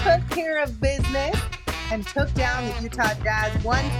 took care of business and took down the Utah Jazz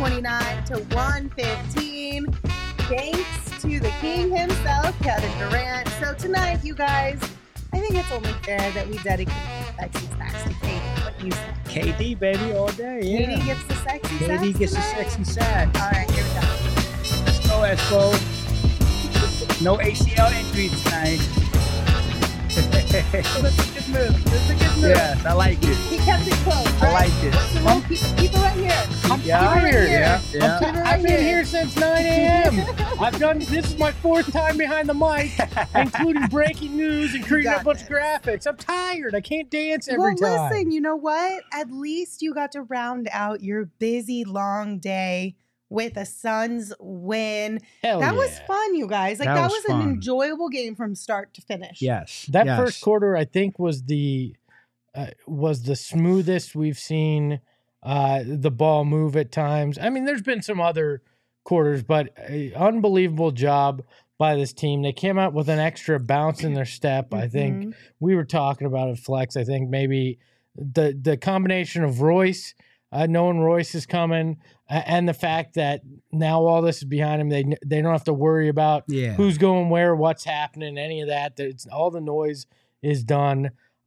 129-115. Thanks to the king himself, Kevin Durant. So tonight, you guys, I think it's only fair that we dedicate sexy sacks to KD. What do you say? KD, baby, all day. Yeah. KD gets the sexy sacks KD gets tonight? the sexy sack. All right, here we go. Let's go, Espo. No ACL injury tonight. This is a good move. Yes, I like it. He kept it close, right? I like it. What's the rule? Keep it right here. I'm tired. Yeah. I've been here since 9 a.m. This is my fourth time behind the mic, including breaking news and creating a bunch of graphics. I'm tired. I can't dance every time. Well, listen, you know what? At least you got to round out your busy, long day with a Suns win. That was fun, you guys. Like that was fun. an enjoyable game from start to finish. Yes. That yes. first quarter, I think, was the smoothest we've seen the ball move at times. I mean, there's been some other quarters, but unbelievable job by this team. They came out with an extra bounce in their step. I think we were talking about it, Flex. I think maybe the combination of Royce, knowing Royce is coming, and the fact that now all this is behind him, they don't have to worry about who's going where, what's happening, any of that. All the noise is done.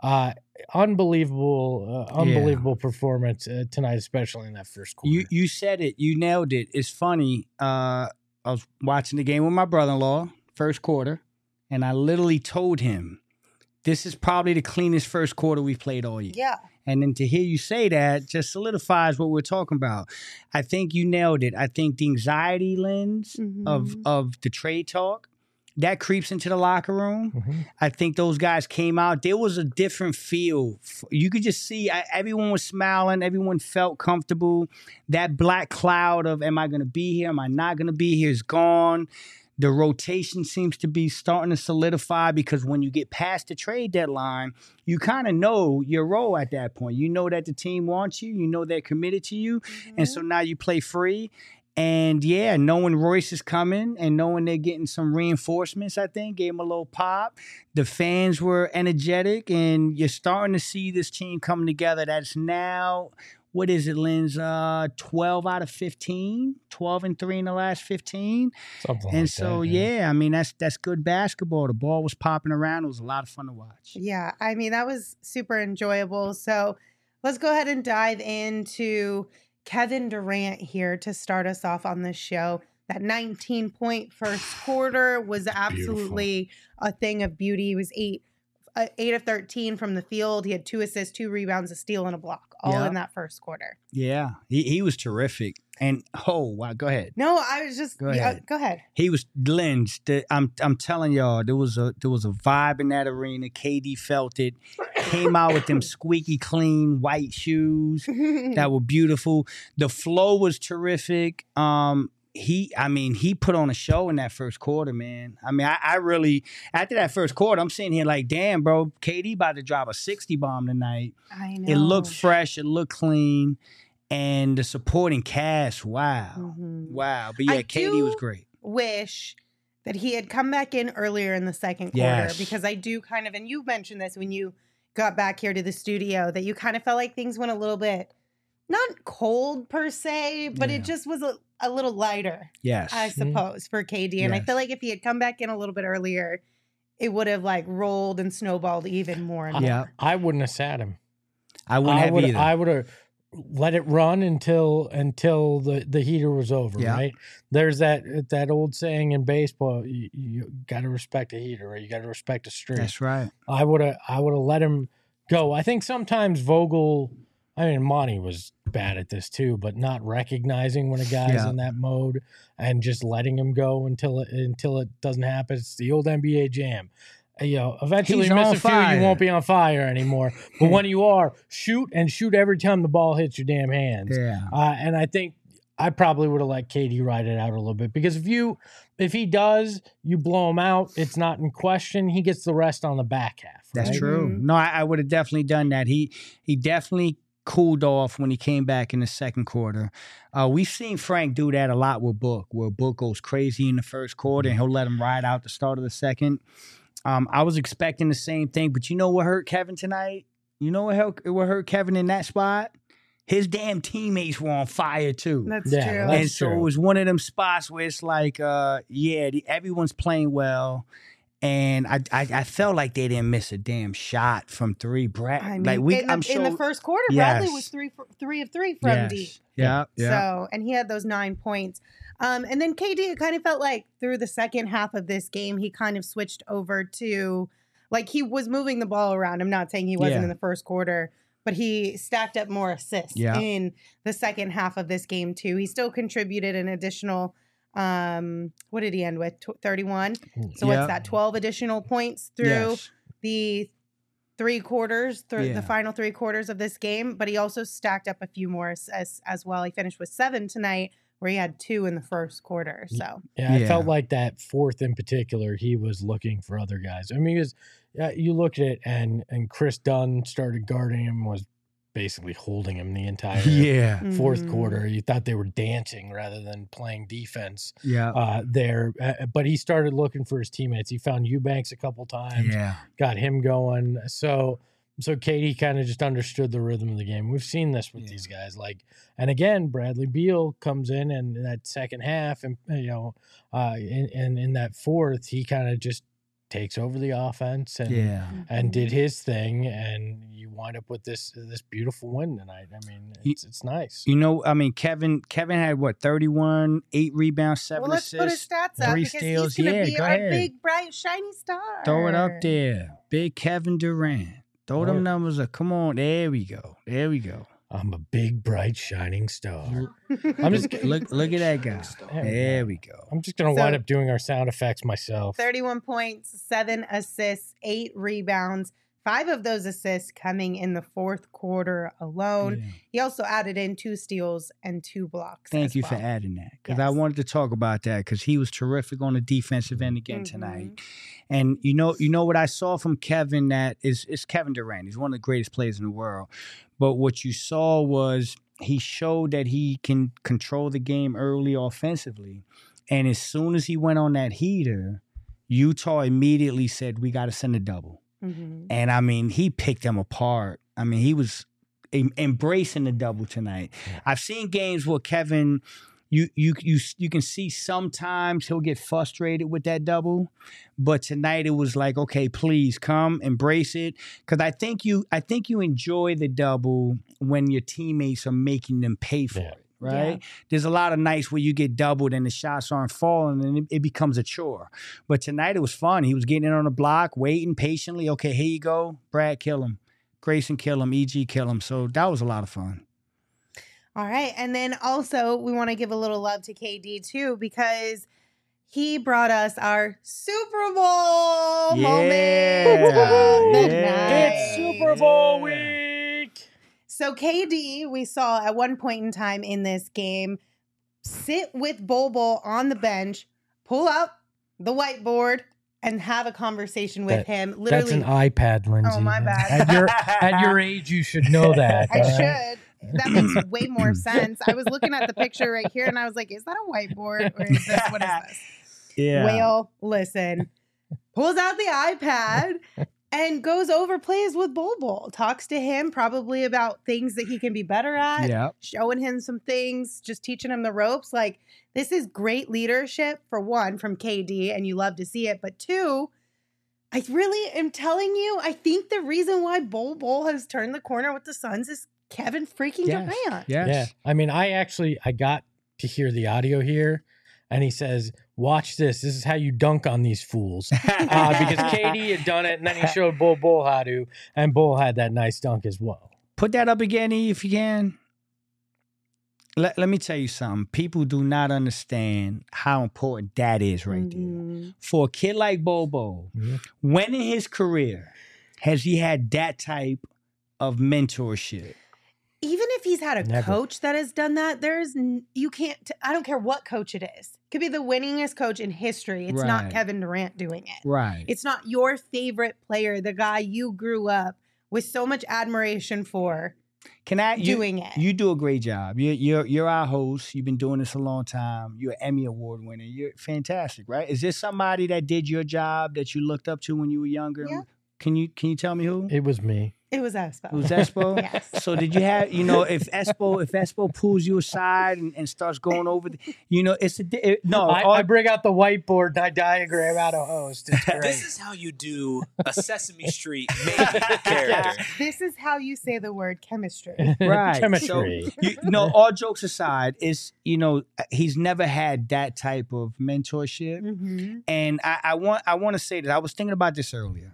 Unbelievable performance tonight, especially in that first quarter. You said it. You nailed it. It's funny. I was watching the game with my brother-in-law, first quarter, and I literally told him, this is probably the cleanest first quarter we've played all year. Yeah. And then to hear you say that just solidifies what we're talking about. I think you nailed it. I think the anxiety lens of the trade talk, that creeps into the locker room. I think those guys came out. There was a different feel. You could just see everyone was smiling. Everyone felt comfortable. That black cloud of, am I going to be here? Am I not going to be here? Is gone. The rotation seems to be starting to solidify because when you get past the trade deadline, you kind of know your role at that point. You know that the team wants you. You know they're committed to you. And so now you play free. And yeah, knowing Royce is coming and knowing they're getting some reinforcements, I think, gave them a little pop. The fans were energetic, and you're starting to see this team come together. That's now, what is it, Linz? 12 out of 15, 12-3 in the last 15. Something and like so, that, yeah, I mean, that's good basketball. The ball was popping around. It was a lot of fun to watch. Yeah, I mean, that was super enjoyable. So let's go ahead and dive into Kevin Durant here to start us off on this show. That 19-point first quarter was absolutely a thing of beauty. He was 8 of 13 from the field. He had 2 assists, 2 rebounds, a steal, and a block, all in that first quarter. Yeah, he was terrific. And wow, go ahead. No, I was just go ahead. He was lynched. I'm telling y'all, there was a vibe in that arena. KD felt it. Came out with them squeaky clean white shoes that were beautiful. The flow was terrific. He put on a show in that first quarter, man. I mean, I really, after that first quarter, I'm sitting here like, damn, bro, KD about to drop a 60 bomb tonight. I know. It looked fresh. It looked clean. And the supporting cast, wow. Wow. But yeah, KD was great. Wish that he had come back in earlier in the second quarter because I do kind of, and you mentioned this when you got back here to the studio, that you kind of felt like things went a little bit, not cold per se, but it just was a little lighter, I suppose, for KD. And I feel like if he had come back in a little bit earlier, it would have like rolled and snowballed even more. And more. I wouldn't have sat him. I wouldn't have either. I would have let it run until the heater was over, right? There's that old saying in baseball, you got to respect a heater, or you got to respect a streak. That's right. I would have let him go. I think sometimes Vogel, I mean, Monty was bad at this too, but not recognizing when a guy's in that mode and just letting him go until it doesn't happen. It's the old NBA jam. Eventually miss a few, you won't be on fire anymore. But when you are, shoot every time the ball hits your damn hands. Yeah. And I think I probably would have let KD ride it out a little bit, because if he does, you blow him out, it's not in question. He gets the rest on the back half. Right? That's true. No, I would have definitely done that. He definitely cooled off when he came back in the second quarter. We've seen Frank do that a lot with Book, where Book goes crazy in the first quarter and he'll let him ride out the start of the second. I was expecting the same thing, but you know what hurt Kevin tonight? You know what hurt Kevin in that spot? His damn teammates were on fire too. That's true. And so it was one of them spots where it's like, everyone's playing well. And I felt like they didn't miss a damn shot from three. In the first quarter, Bradley was 3 of 3 from deep. Yeah. So, and he had those 9 points. And then KD, it kind of felt like through the second half of this game, he kind of switched over to, like, he was moving the ball around. I'm not saying he wasn't in the first quarter, but he stacked up more assists in the second half of this game too. He still contributed an additional, what did he end with? 31. So what's that? 12 additional points through the 3 quarters, the final 3 quarters of this game. But he also stacked up a few more as well. He finished with 7 tonight, where he had 2 in the first quarter. So I felt like that fourth in particular, he was looking for other guys. I mean, you look at it, and Chris Dunn started guarding him, was basically holding him the entire fourth quarter. You thought they were dancing rather than playing defense there. But he started looking for his teammates. He found Eubanks a couple times, got him going. So KD kind of just understood the rhythm of the game. We've seen this with these guys. And again, Bradley Beal comes in that second half, and in that fourth, he kind of just takes over the offense and did his thing, and you wind up with this beautiful win tonight. I mean, it's nice. Kevin had what, 31, 8 rebounds, 7 assists, let's put his stats up 3 steals. He's gonna be our big, bright, shiny star. Throw it up there, big Kevin Durant. Throw them numbers up. Come on, there we go. I'm a big, bright, shining star. I'm just look at that guy. There we go. I'm just gonna wind up doing our sound effects myself. 31 points, 7 assists, 8 rebounds. 5 of those assists coming in the fourth quarter alone. Yeah. He also added in 2 steals and 2 blocks. Thank you for adding that, because I wanted to talk about that, because he was terrific on the defensive end again tonight. And you know what I saw from Kevin, that is Kevin Durant. He's one of the greatest players in the world. But what you saw was he showed that he can control the game early offensively. And as soon as he went on that heater, Utah immediately said, we got to send a double. And I mean, he picked them apart. I mean, he was embracing the double tonight. I've seen games where Kevin, you can see sometimes he'll get frustrated with that double, but tonight it was like, okay, please come embrace it, because I think you enjoy the double when your teammates are making them pay for it. Right? Yeah. There's a lot of nights where you get doubled and the shots aren't falling, and it becomes a chore. But tonight it was fun. He was getting in on the block, waiting patiently. Okay, here you go. Brad, kill him. Grayson, kill him. EG, kill him. So that was a lot of fun. All right. And then also we want to give a little love to KD too, because he brought us our Super Bowl moment of the night. It's Super Bowl week. So KD, we saw at one point in time in this game, sit with Bol Bol on the bench, pull up the whiteboard, and have a conversation with him. Literally, that's an iPad, Lindsay. Oh, my bad. At your age, you should know that. I should. That makes way more sense. I was looking at the picture right here, and I was like, is that a whiteboard? Or is this, what is this? Yeah. Whale, listen. Pulls out the iPad and goes over plays with Bol Bol. Talks to him probably about things that he can be better at. Showing him some things, just teaching him the ropes. Like, this is great leadership, for one, from KD, and you love to see it. But 2, I really am telling you, I think the reason why Bol Bol has turned the corner with the Suns is Kevin freaking Durant. Yes. Yeah. I mean, I got to hear the audio here, and he says, watch this. This is how you dunk on these fools. Because KD had done it, and then he showed Bol how to, and Bol had that nice dunk as well. Put that up again, E, if you can. Let me tell you something. People do not understand how important that is right there. For a kid like Bol, when in his career has he had that type of mentorship? Even if he's had a coach that has done that, I don't care what coach it is. It could be the winningest coach in history. It's not Kevin Durant doing it. Right. It's not your favorite player, the guy you grew up with so much admiration for. Doing it. You do a great job. You're our host. You've been doing this a long time. You're an Emmy Award winner. You're fantastic, right? Is there somebody that did your job that you looked up to when you were younger? Yeah. Can you tell me who? It was me. It was Espo. It was Espo? Yes. So did you have, if Espo pulls you aside and starts going over, I bring out the whiteboard and I diagram out a host. It's great. This is how you do a Sesame Street main character. This is how you say the word chemistry. Right. Chemistry. So, all jokes aside, he's never had that type of mentorship. Mm-hmm. And I want to say that I was thinking about this earlier.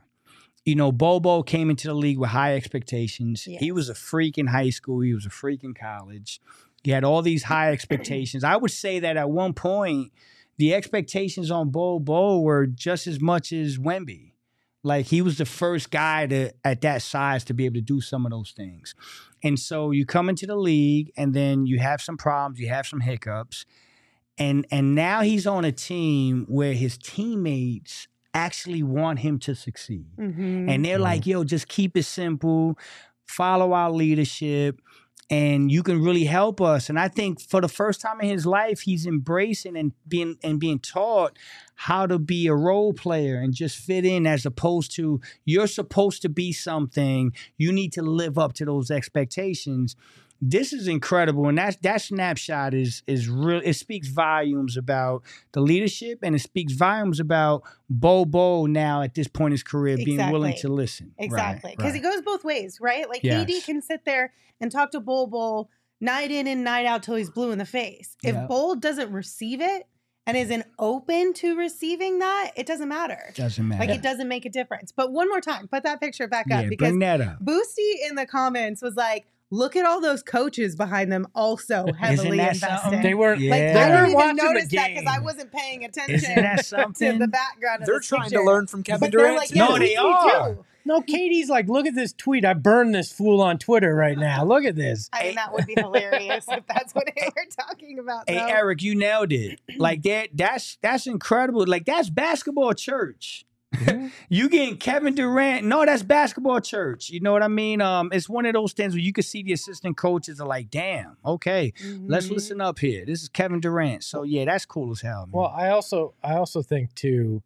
Bobo came into the league with high expectations. Yes. He was a freak in high school. He was a freak in college. He had all these high expectations. I would say that at one point, the expectations on Bobo were just as much as Wemby. Like, he was the first guy at that size to be able to do some of those things. And so you come into the league, and then you have some problems, you have some hiccups. And now he's on a team where his teammates actually want him to succeed. Mm-hmm. And they're like, yo, just keep it simple, follow our leadership, and you can really help us. And I think for the first time in his life, he's embracing and being taught how to be a role player and just fit in, as opposed to you're supposed to be something. You need to live up to those expectations. This is incredible, and that snapshot is real. It speaks volumes about the leadership, and it speaks volumes about Bobo now at this point in his career being willing to listen. Exactly, because it goes both ways, right? Like, yes. KD can sit there and talk to Bobo night in and night out till he's blue in the face. If Bol doesn't receive it and isn't open to receiving that, it doesn't matter. Doesn't matter. Like, it doesn't make a difference. But one more time, put that picture back up, because bring that up. Boosty in the comments was like, look at all those coaches behind them also heavily invested. They were I didn't even notice that because I wasn't paying attention to the background of They're trying to learn from Kevin Durant. Like, yeah, no, they are. No, Katie's like, look at this tweet. I burned this fool on Twitter right now. Look at this. I mean, that would be hilarious if that's what they were talking about. Hey, Eric, you nailed it. Like, that's incredible. Like, that's basketball church. Mm-hmm. You getting Kevin Durant? No, that's basketball church. You know what I mean? It's one of those things where you can see the assistant coaches are like, damn, okay, let's listen up here. This is Kevin Durant. So yeah, that's cool as hell, man. Well, I also think too,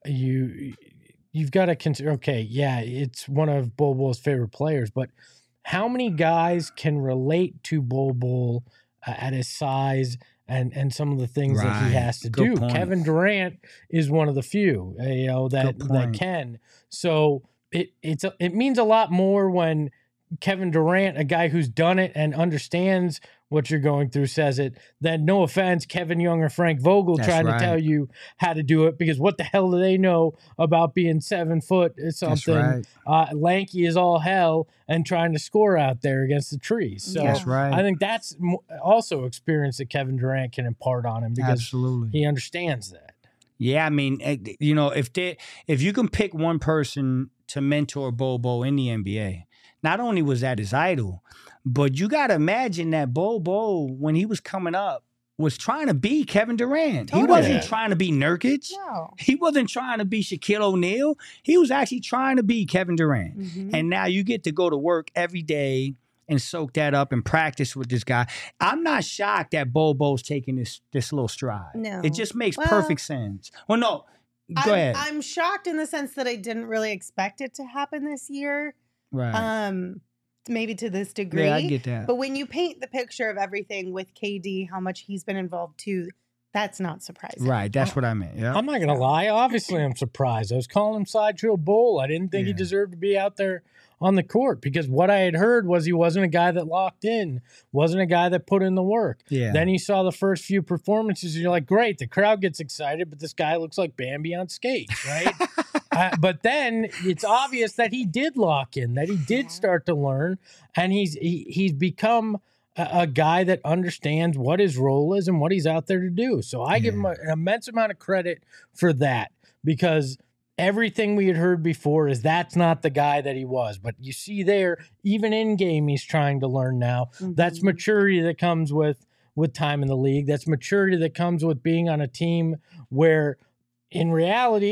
you've got to consider, okay, yeah, it's one of Bol Bol's favorite players, but how many guys can relate to Bol Bol at his size and some of the things that he has to do? Point. Kevin Durant is one of the few, that can. So it means a lot more when Kevin Durant, a guy who's done it and understands what you're going through, says it, then no offense, Kevin Young or Frank Vogel trying to tell you how to do it, because what the hell do they know about being 7 foot something, lanky as all hell, and trying to score out there against the trees. So I think that's also experience that Kevin Durant can impart on him, because he understands that. Yeah, I mean, if you can pick one person to mentor Bobo in the NBA, not only was that his idol, but you got to imagine that Bobo, when he was coming up, was trying to be Kevin Durant. Totally. He wasn't trying to be Nurkic. No. He wasn't trying to be Shaquille O'Neal. He was actually trying to be Kevin Durant. Mm-hmm. And now you get to go to work every day and soak that up and practice with this guy. I'm not shocked that Bobo's taking this little stride. No. It just makes perfect sense. Well, no, go ahead. I'm shocked in the sense that I didn't really expect it to happen this year. Right. Maybe to this degree. Yeah, I get that. But when you paint the picture of everything with KD, how much he's been involved too, that's not surprising. Right. That's what I meant. Yeah. I'm not going to lie. Obviously, I'm surprised. I was calling him Sideshow Bol. I didn't think he deserved to be out there on the court, because what I had heard was he wasn't a guy that locked in, wasn't a guy that put in the work. Yeah. Then you saw the first few performances, and you're like, great, the crowd gets excited, but this guy looks like Bambi on skates, right? But then it's obvious that he did lock in, that he did start to learn, and he's become a guy that understands what his role is and what he's out there to do. So I give him an immense amount of credit for that, because everything we had heard before is that's not the guy that he was. But you see there, even in game, he's trying to learn now. Mm-hmm. That's maturity that comes with time in the league. That's maturity that comes with being on a team where, in reality,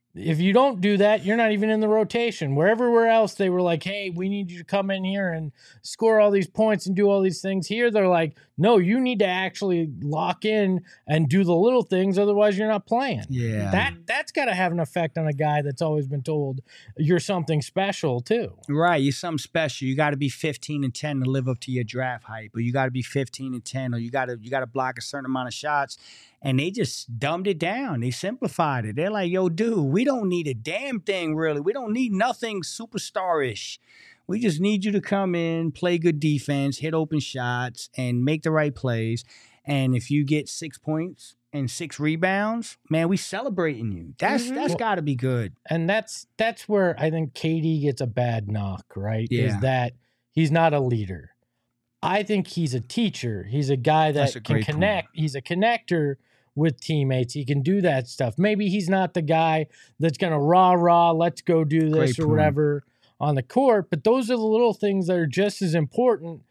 If you don't do that, you're not even in the rotation. Where everywhere else they were like, hey, we need you to come in here and score all these points and do all these things. Here they're like, no, you need to actually lock in and do the little things, otherwise you're not playing. Yeah. That's got to have an effect on a guy that's always been told you're something special too. Right, you're something special. You got to be 15-10 to live up to your draft hype, or you got to be 15-10, or you got to block a certain amount of shots. And they just dumbed it down. They simplified it. They're like, yo, dude, we don't need a damn thing, really. We don't need nothing superstar-ish. We just need you to come in, play good defense, hit open shots, and make the right plays. And if you get 6 points and 6 rebounds, man, we celebrating you. That's got to be good. And that's where I think KD gets a bad knock, right? Yeah. Is that he's not a leader. I think he's a teacher. He's a guy that can connect. He's a connector with teammates. He can do that stuff. Maybe he's not the guy that's going to rah, let's go do this or whatever on the court, but those are the little things that are just as important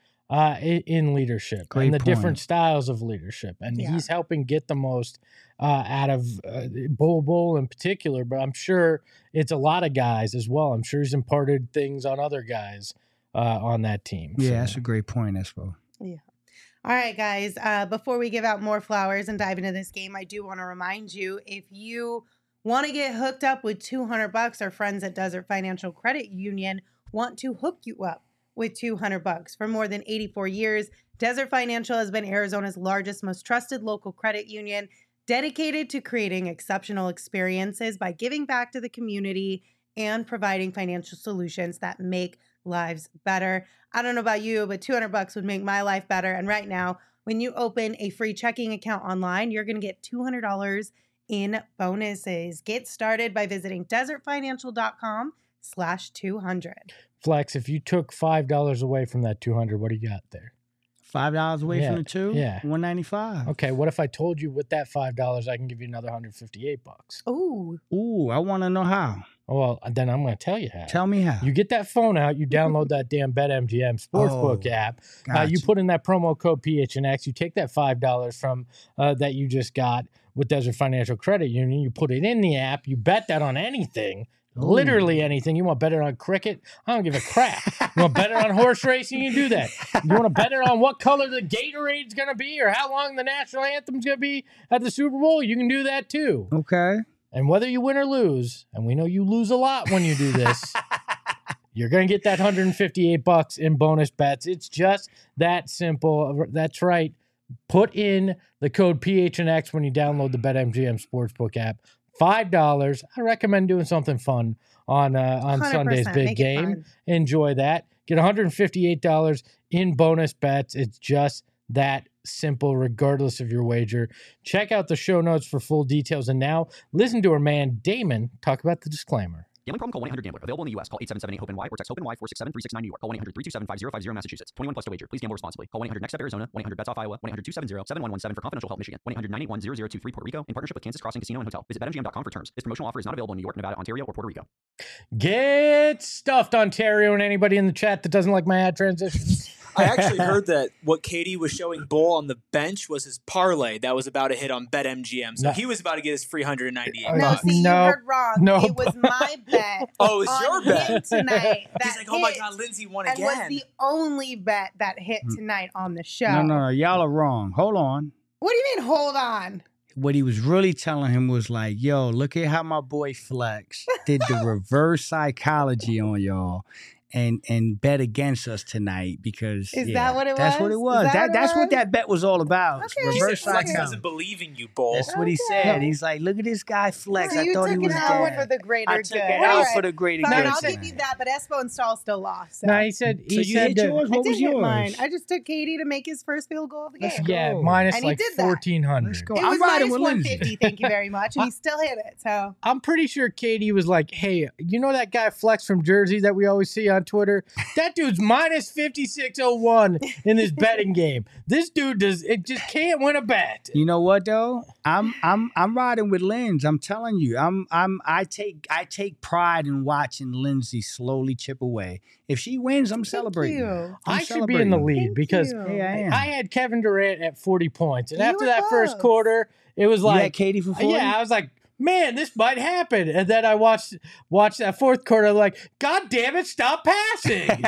in leadership and the different styles of leadership. And he's helping get the most out of Bol in particular, but I'm sure it's a lot of guys as well. I'm sure he's imparted things on other guys on that team. Yeah, that's a great point, Espo. Yeah. All right, guys. Before we give out more flowers and dive into this game, I do want to remind you, if you want to get hooked up with $200, our friends at Desert Financial Credit Union want to hook you up with $200. For more than 84 years, Desert Financial has been Arizona's largest, most trusted local credit union, dedicated to creating exceptional experiences by giving back to the community and providing financial solutions that make lives better. I don't know about you, but $200 would make my life better. And right now, when you open a free checking account online, you're going to get $200 in bonuses. Get started by visiting desertfinancial.com/200. Flex, if you took $5 away from that 200, what do you got there? $5 away from the two? Yeah. $195. Okay, what if I told you with that $5 I can give you another $158? Ooh, I want to know how. Well, then I'm going to tell you how. Tell me how. You get that phone out, you download that damn BetMGM Sportsbook app. Gotcha. You put in that promo code PHNX. You take that $5 from that you just got with Desert Financial Credit Union. You put it in the app. You bet that on anything. Literally anything. You want to bet it on cricket? I don't give a crap. You want to bet it on horse racing? You do that. You want to bet it on what color the Gatorade's going to be or how long the national anthem's going to be at the Super Bowl? You can do that too. Okay. And whether you win or lose, and we know you lose a lot when you do this, you're going to get that $158 in bonus bets. It's just that simple. That's right. Put in the code PHNX when you download the BetMGM Sportsbook app. $5. I recommend doing something fun on Sunday's big game. Enjoy that. Get $158 in bonus bets. It's just that simple, regardless of your wager. Check out the show notes for full details. And now, listen to our man Damon talk about the disclaimer. Gambling problem? Call 1-800-GAMBLER. Available in the U.S. Call 877-8-HOPE-NY or text HOPE-NY 467-369 New York. Call 1-800-327-5050 Massachusetts. 21 plus to wager. Please gamble responsibly. Call 1-800-NEXT-STEP Arizona. 1-800-BETS-OFF Iowa. 1-800-270-7117 for confidential help Michigan. 1-800-981-0023 Puerto Rico in partnership with Kansas Crossing Casino and Hotel. Visit BetMGM.com for terms. This promotional offer is not available in New York, Nevada, Ontario, or Puerto Rico. Get stuffed, Ontario, and anybody in the chat that doesn't like my ad transitions. I actually heard that what KD was showing Bull on the bench was his parlay that was about to hit on BetMGM. So he was about to get his $398. No, see, you heard wrong. It was my bet. Oh, it was your bet tonight. He's like, oh my God, Lindsay won again. And was the only bet that hit tonight on the show. No. Y'all are wrong. Hold on. What do you mean, hold on? What he was really telling him was like, yo, look at how my boy Flex did the reverse psychology on y'all. And bet against us tonight because that what it was? That's what it was. That's what that bet was all about. Okay. Reverse Flex doesn't believe in you, Bull. That's what he said. He's like, look at this guy Flex. So I thought he was dead. For the greater I took it out for the greater good. Fine, I'll give you that, but Espo and Stahl still lost. So. No, he said you hit yours? What was yours? Mine. I just took KD to make his first field goal of the game. Yeah, minus and like 1,400. Let's go. It was minus 150. Thank you very much, and he still hit it. So I'm pretty sure KD was like, "Hey, you know that guy Flex from Jersey that we always see on Twitter? That dude's minus 5601 in this betting game. This dude just can't win a bet." You know what though? I'm riding with Linz. I'm telling you, I take pride in watching Lindsay slowly chip away. If she wins, I'm celebrating. I should be in the lead because I had Kevin Durant at 40 points, and after that first quarter, it was like you had KD for 40? Yeah, I was like, man, this might happen. And then I watched that fourth quarter. I'm like, God damn it, stop passing.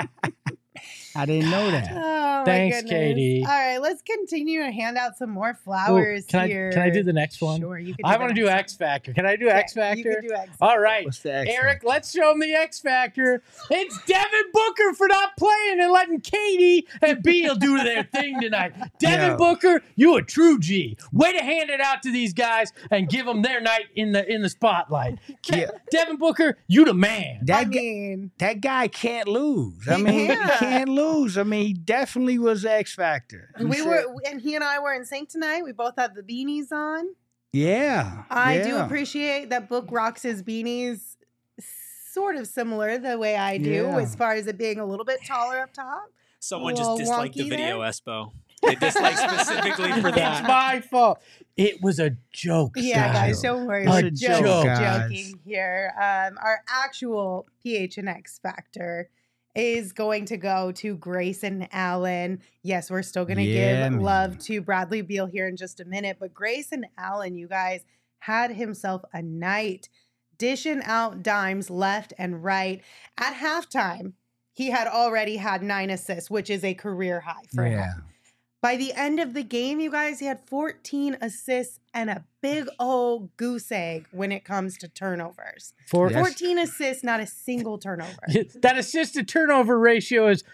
I didn't know that. Oh, Thanks, my goodness. Katie. All right, let's continue to hand out some more flowers here. Can I do the next one? Sure, you can. I want to do X Factor. Can I do X Factor? You can do X Factor. All right, What's the X Eric, Factor? let's show him the X Factor. It's Devin Booker for not playing and letting Katie and Beal do their thing tonight. Devin Booker, you a true G. Way to hand it out to these guys and give them their night in the spotlight. Devin Booker, you the man. That guy can't lose. I mean, he can't lose. I mean, he definitely was X Factor. He and I were in sync tonight. We both had the beanies on. Yeah. I do appreciate that Book rocks his beanies sort of similar the way I do, as far as it being a little bit taller up top. Someone just disliked the video, Espo. They disliked specifically for that. It's my fault. It was a joke. Yeah, guys, don't worry. It's We're a just joke, joking here. Our actual PHNX factor is going to go to Grayson Allen. Yes, we're still going to give love to Bradley Beal here in just a minute, but Grayson Allen, you guys, had himself a night dishing out dimes left and right. At halftime, he had already had 9 assists, which is a career high for him. By the end of the game, you guys, he had 14 assists and a big old goose egg when it comes to turnovers. 14 assists, not a single turnover. That assist to turnover ratio is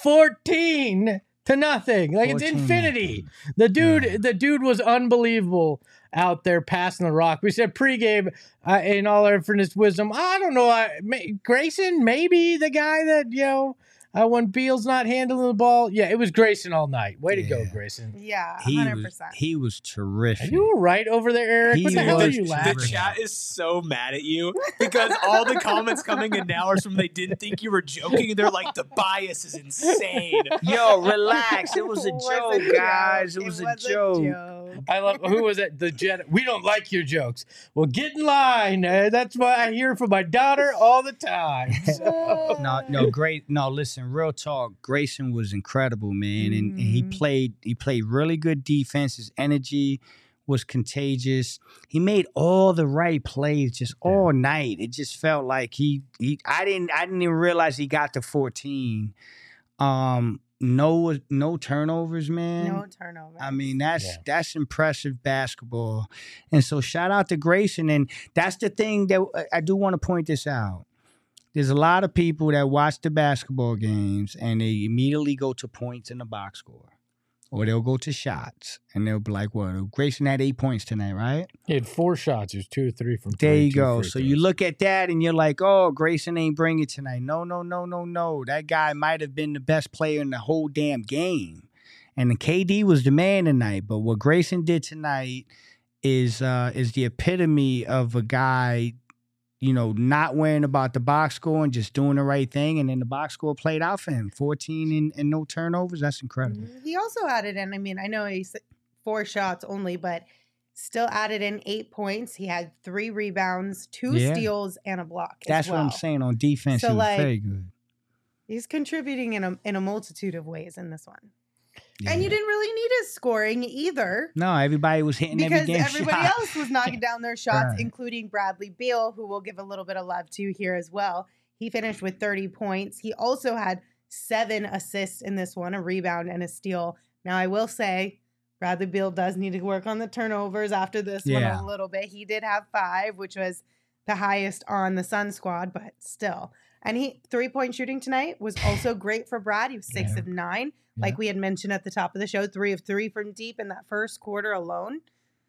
14 to nothing. Like it's infinity. The dude was unbelievable out there passing the rock. We said pregame, in all our infinite wisdom, I don't know, Grayson, maybe the guy that, when Beal's not handling the ball. Yeah, it was Grayson all night. Way to go, Grayson. Yeah, 100%. He was terrific. Are you all right over there, Eric? What the hell are you laughing at? The chat is so mad at you because all the comments coming in now are from they didn't think you were joking. They're like, the bias is insane. Yo, relax. It was a joke, guys. It was a joke. I love, who was it? The Jet. We don't like your jokes. Well, get in line. That's what I hear from my daughter all the time. So. No, great. No, listen, real talk. Grayson was incredible, man, and he played really good defense. His energy was contagious. He made all the right plays just all night. It just felt like I didn't even realize he got to 14. No turnovers, man. No turnovers. I mean, that's impressive basketball. And so shout out to Grayson. And that's the thing that I do want to point this out. There's a lot of people that watch the basketball games and they immediately go to points in the box score. Or they'll go to shots. And they'll be like, well, Grayson had 8 points tonight, right? He had 4 shots. He was 2 or 3 from 3. There you go. So you look at that and you're like, oh, Grayson ain't bring it tonight. No. That guy might have been the best player in the whole damn game. And the KD was the man tonight. But what Grayson did tonight is the epitome of a guy, not worrying about the box score and just doing the right thing. And then the box score played out for him. 14 and no turnovers. That's incredible. He also added in, I know he's 4 shots only, but still added in 8 points. He had 3 rebounds, 2 steals, and a block. That's what I'm saying. On defense, he was very good. He's contributing in a multitude of ways in this one. Yeah. And you didn't really need his scoring either. No, everybody was hitting every damn shot. Because everybody else was knocking down their shots, including Bradley Beal, who we'll give a little bit of love to here as well. He finished with 30 points. He also had 7 assists in this one, a rebound and a steal. Now, I will say, Bradley Beal does need to work on the turnovers after this one a little bit. He did have 5, which was the highest on the Sun squad, but still. And 3-point shooting tonight was also great for Brad. He was 6 of 9. Like we had mentioned at the top of the show, 3 of 3 from deep in that first quarter alone.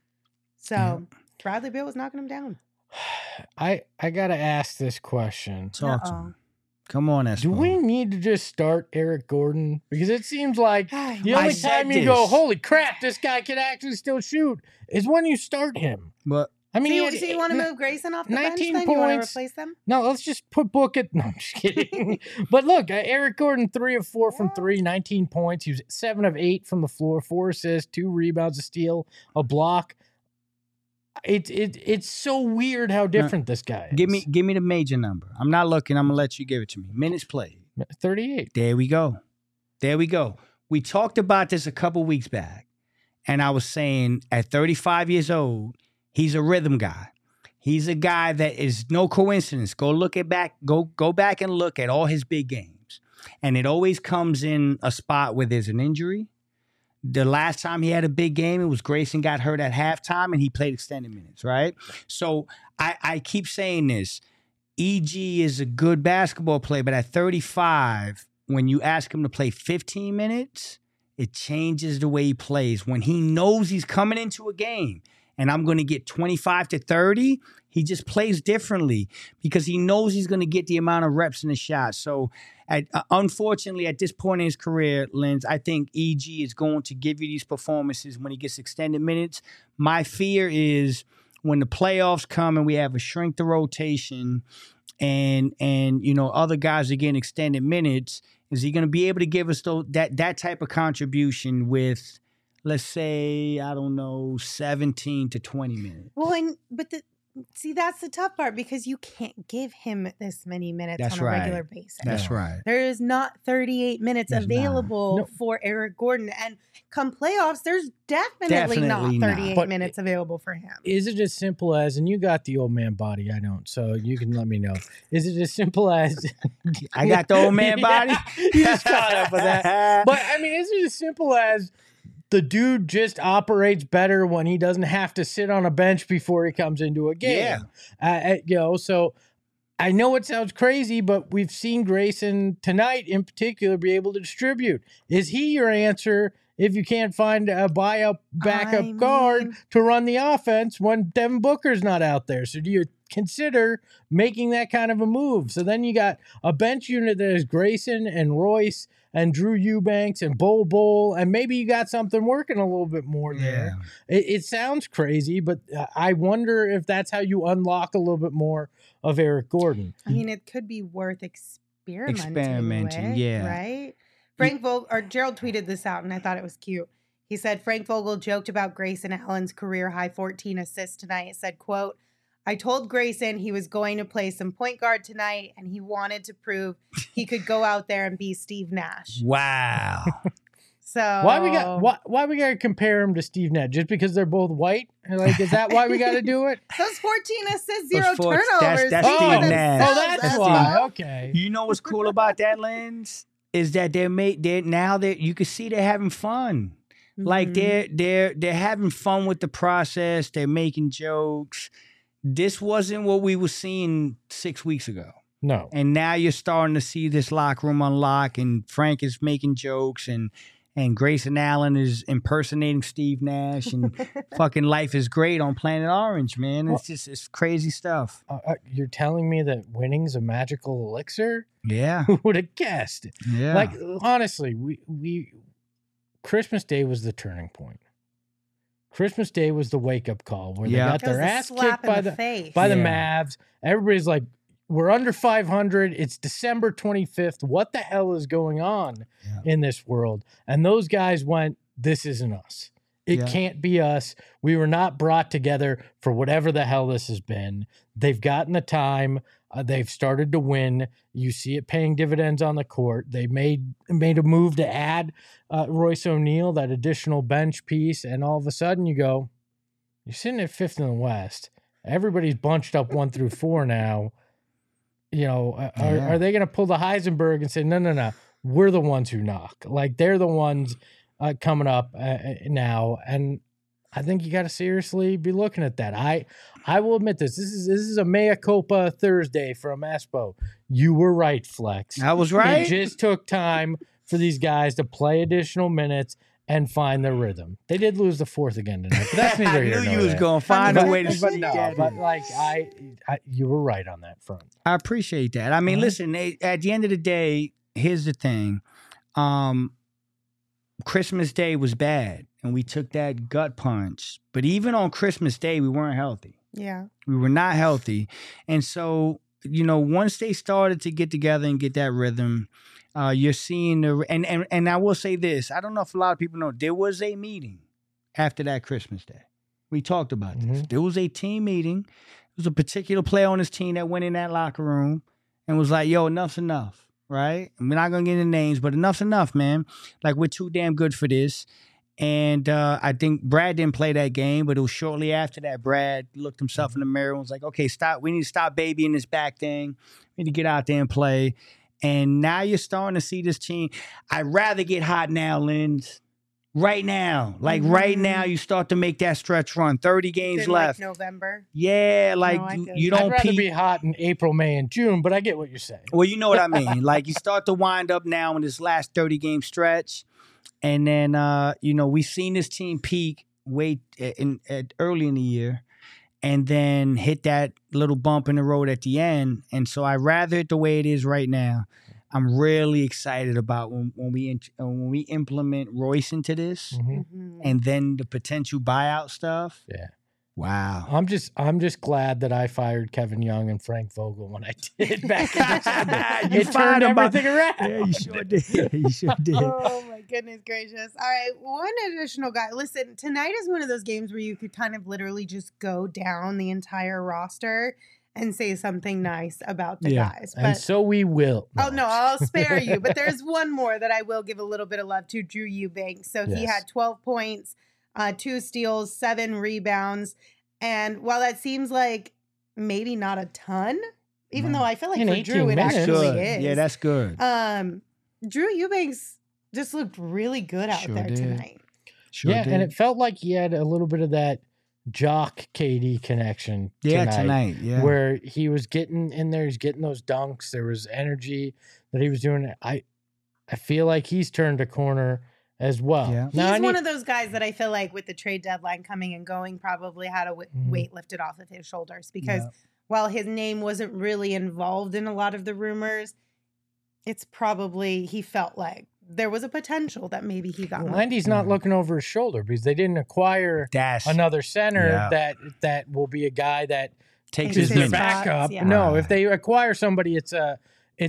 So Bradley Beal was knocking him down. I got to ask this question. Talk to him. Come on, Espo. Do we need to just start Eric Gordon? Because it seems like the only time you go, holy crap, this guy can actually still shoot, is when you start him. But I mean, so you want to move Grayson off the bench then? Points. You want to replace them? No, let's just put Book at... No, I'm just kidding. But look, Eric Gordon, 3 of 4 from 3, 19 points. He was 7 of 8 from the floor, 4 assists, 2 rebounds, a steal, a block. It's so weird how different this guy is. Give me the major number. I'm not looking. I'm going to let you give it to me. Minutes played. 38. There we go. We talked about this a couple weeks back, and I was saying at 35 years old, he's a rhythm guy. He's a guy that is no coincidence. Go back and look at all his big games. And it always comes in a spot where there's an injury. The last time he had a big game, it was Grayson got hurt at halftime and he played extended minutes, right? So I keep saying this. EG is a good basketball player, but at 35, when you ask him to play 15 minutes, it changes the way he plays. When he knows he's coming into a game and I'm going to get 25 to 30, he just plays differently because he knows he's going to get the amount of reps in the shot. So, unfortunately, at this point in his career, Linz, I think EG is going to give you these performances when he gets extended minutes. My fear is when the playoffs come and we have a shrink the rotation and other guys are getting extended minutes, is he going to be able to give us that type of contribution with, let's say, I don't know, 17 to 20 minutes? Well, see, that's the tough part because you can't give him this many minutes on a regular basis. That's right. There is not 38 minutes available for Eric Gordon. And come playoffs, there's definitely not 38 minutes available for him. Is it as simple as, and you got the old man body, I don't, so you can let me know. Is it as simple as... I got the old man body? You just caught up with that. But, I mean, is it as simple as... the dude just operates better when he doesn't have to sit on a bench before he comes into a game. Yeah. So I know it sounds crazy, but we've seen Grayson tonight in particular be able to distribute. Is he your answer if you can't find a backup guard to run the offense when Devin Booker's not out there? So do you consider making that kind of a move? So then you got a bench unit that is Grayson and Royce and Drew Eubanks and Bol, and maybe you got something working a little bit more there. Yeah. It sounds crazy, but I wonder if that's how you unlock a little bit more of Eric Gordon. I mean, it could be worth experimenting with, yeah. Right? Gerald tweeted this out, and I thought it was cute. He said, Frank Vogel joked about Grayson Allen's career high 14 assists tonight. It said, quote, I told Grayson he was going to play some point guard tonight, and he wanted to prove he could go out there and be Steve Nash. Wow. So why we got to compare him to Steve Nash? Just because they're both white? Like, is that why we got to do it? Those 14 assists, 0 turnovers. That's Steve Nash. Oh, that's why. Okay. You know what's cool about that, Linz? Is that you can see they're having fun. Mm-hmm. Like they're having fun with the process. They're making jokes. This wasn't what we were seeing 6 weeks ago. No. And now you're starting to see this locker room unlock, and Frank is making jokes, and Grayson Allen is impersonating Steve Nash, and fucking life is great on Planet Orange, man. It's crazy stuff. You're telling me that winning's a magical elixir? Yeah. Who would have guessed? Yeah. Like, honestly, we Christmas Day was the turning point. Christmas Day was the wake-up call where they got their ass kicked by the Mavs. Everybody's like, we're under 500. It's December 25th. What the hell is going on in this world? And those guys went, this isn't us. It can't be us. We were not brought together for whatever the hell this has been. They've gotten the time. They've started to win. You see it paying dividends on the court. They made a move to add Royce O'Neal, that additional bench piece, and all of a sudden you go, you're sitting at 5th in the West. Everybody's bunched up 1 through 4 now. You know, are they going to pull the Heisenberg and say, no, we're the ones who knock? Like, they're the ones coming up now, and I think you got to seriously be looking at that. I will admit this. This is a mea culpa Thursday from Espo. You were right, Flex. I was right. It just took time for these guys to play additional minutes and find their rhythm. They did lose the 4th again tonight, but that's neither here nor there. I knew you was going to find a way to but no, but like you were right on that front. I appreciate that. I mean, listen, at the end of the day, here's the thing. Christmas Day was bad, and we took that gut punch. But even on Christmas Day, we weren't healthy. Yeah. We were not healthy. And so, once they started to get together and get that rhythm, you're seeing and I will say this. I don't know if a lot of people know, there was a meeting after that Christmas Day. We talked about this. There was a team meeting. There was a particular player on his team that went in that locker room and was like, yo, enough's enough, right? We're not going to get into names, but enough's enough, man. Like, we're too damn good for this. And I think Brad didn't play that game, but it was shortly after that. Brad looked himself in the mirror and was like, okay, stop. We need to stop babying this back thing. We need to get out there and play. And now you're starting to see this team. I'd rather get hot now, Linz. Right now. Like right now, you start to make that stretch run. 30 games left. Like November? Yeah, like you don't I'd rather be hot in April, May, and June, but I get what you're saying. Well, you know what I mean. Like you start to wind up now in this last 30-game stretch. And then, we've seen this team peak early in the year and then hit that little bump in the road at the end. And so I'd rather it the way it is right now. I'm really excited about when we implement Royce into this and then the potential buyout stuff. Yeah. Wow. I'm just glad that I fired Kevin Young and Frank Vogel when I did back in December. It turned everything around. Yeah, you sure did. You sure did. Oh my goodness gracious. All right, one additional guy. Listen, tonight is one of those games where you could kind of literally just go down the entire roster and say something nice about the guys. But, and so we will. Oh, no, I'll spare you. But there's one more that I will give a little bit of love to, Drew Eubanks. So he had 12 points. 2 steals, 7 rebounds. And while that seems like maybe not a ton, even though I feel like for Drew it actually is. Yeah, that's good. Drew Eubanks just looked really good out there tonight. Sure did. And it felt like he had a little bit of that Jock KD connection tonight. Yeah. Where he was getting in there, he's getting those dunks. There was energy that he was doing. I feel like he's turned a corner as well. Yeah. He's one of those guys that I feel like with the trade deadline coming and going probably had a weight lifted off of his shoulders because while his name wasn't really involved in a lot of the rumors, it's probably he felt like there was a potential that maybe he got. And he's not looking over his shoulder because they didn't acquire another center that will be a guy that takes his backup. Yeah. No, if they acquire somebody, it's a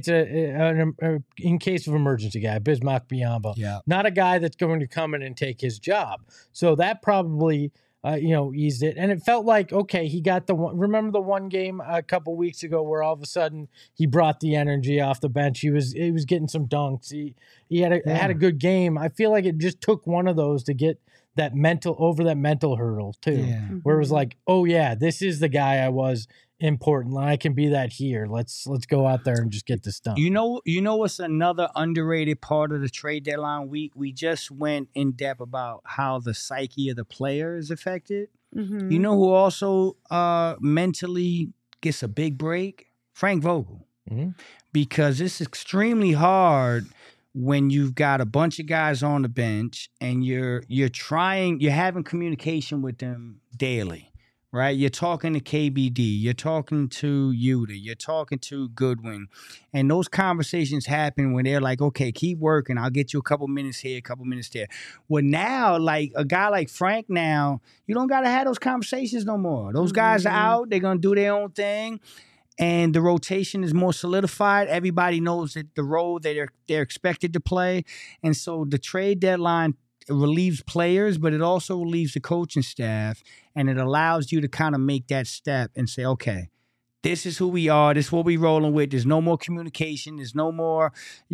in case of emergency guy, Bismack Biyombo, not a guy that's going to come in and take his job. So that probably, eased it. And it felt like, okay, he got remember the one game a couple weeks ago where all of a sudden he brought the energy off the bench. He was getting some dunks. He had a good game. I feel like it just took one of those to get that mental hurdle too, where it was like, oh yeah, this is the guy I was important. I can be that here. Let's go out there and just get this done. You know what's another underrated part of the trade deadline week? We just went in depth about how the psyche of the player is affected. Mm-hmm. You know who also mentally gets a big break? Frank Vogel. Mm-hmm. Because it's extremely hard when you've got a bunch of guys on the bench and you're having communication with them daily. Right, you're talking to KBD, you're talking to Yuta, you're talking to Goodwin, and those conversations happen when they're like, "Okay, keep working. I'll get you a couple minutes here, a couple minutes there." Well, now, like a guy like Frank, now you don't gotta have those conversations no more. Those guys are out; they're gonna do their own thing, and the rotation is more solidified. Everybody knows that the role that they're expected to play, and so the trade deadline relieves players, but it also relieves the coaching staff, and it allows you to kind of make that step and say, okay, this is who we are. This is what we're rolling with. There's no more communication. There's no more,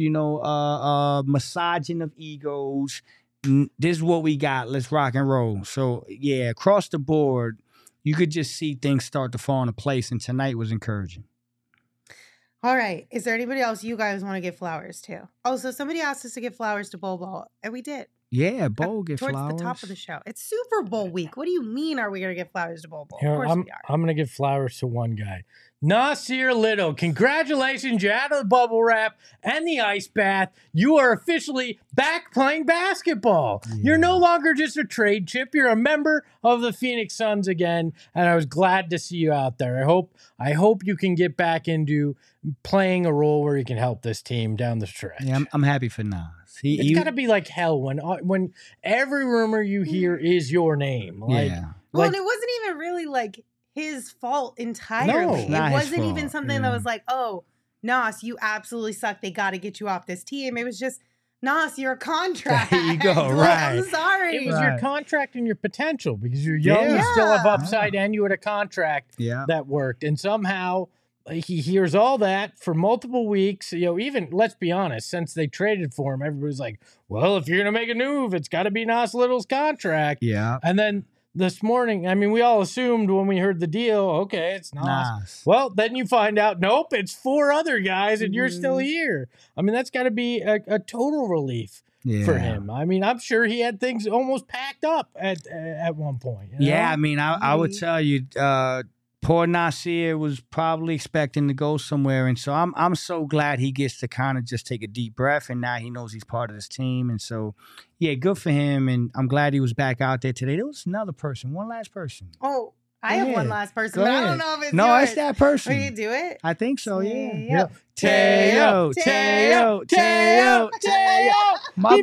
massaging of egos. This is what we got. Let's rock and roll. So, yeah, across the board, you could just see things start to fall into place, and tonight was encouraging. All right. Is there anybody else you guys want to give flowers to? Oh, so somebody asked us to give flowers to Bol Bol, and we did. Yeah, Bol get towards flowers. Towards the top of the show. It's Super Bowl week. What do you mean are we going to give flowers to Bol Bol? Of course we are. I'm going to give flowers to one guy. Nasir Little, congratulations. You're out of the bubble wrap and the ice bath. You are officially back playing basketball. Yeah. You're no longer just a trade chip. You're a member of the Phoenix Suns again, and I was glad to see you out there. I hope you can get back into playing a role where you can help this team down the stretch. Yeah, I'm happy for Nas. It's got to be like hell when every rumor you hear is your name. Like, well, and it wasn't even really like his fault entirely. No, it wasn't even something that was like, oh, Nas, you absolutely suck. They got to get you off this team. It was just, Nas, you're a contract. There you go, right. I'm sorry. It was your contract and your potential because you're young, you still have upside, and you had a contract that worked. And somehow he hears all that for multiple weeks. Even, let's be honest, since they traded for him, everybody's like, well, if you're going to make a move, it's got to be Nas Little's contract. Yeah. And then this morning, I mean, we all assumed when we heard the deal, okay, it's Nas. Well, then you find out, nope, it's 4 other guys and you're still here. I mean, that's got to be a total relief for him. I mean, I'm sure he had things almost packed up at one point. Yeah, I mean, I would tell you, poor Nasir was probably expecting to go somewhere, and so I'm so glad he gets to kind of just take a deep breath, and now he knows he's part of this team, and so yeah, good for him, and I'm glad he was back out there today. There was another person, one last person. Oh, I have one last person, but I don't know if it's no, yours. it's that person. Will you do it? I think so. Yeah. Teo. My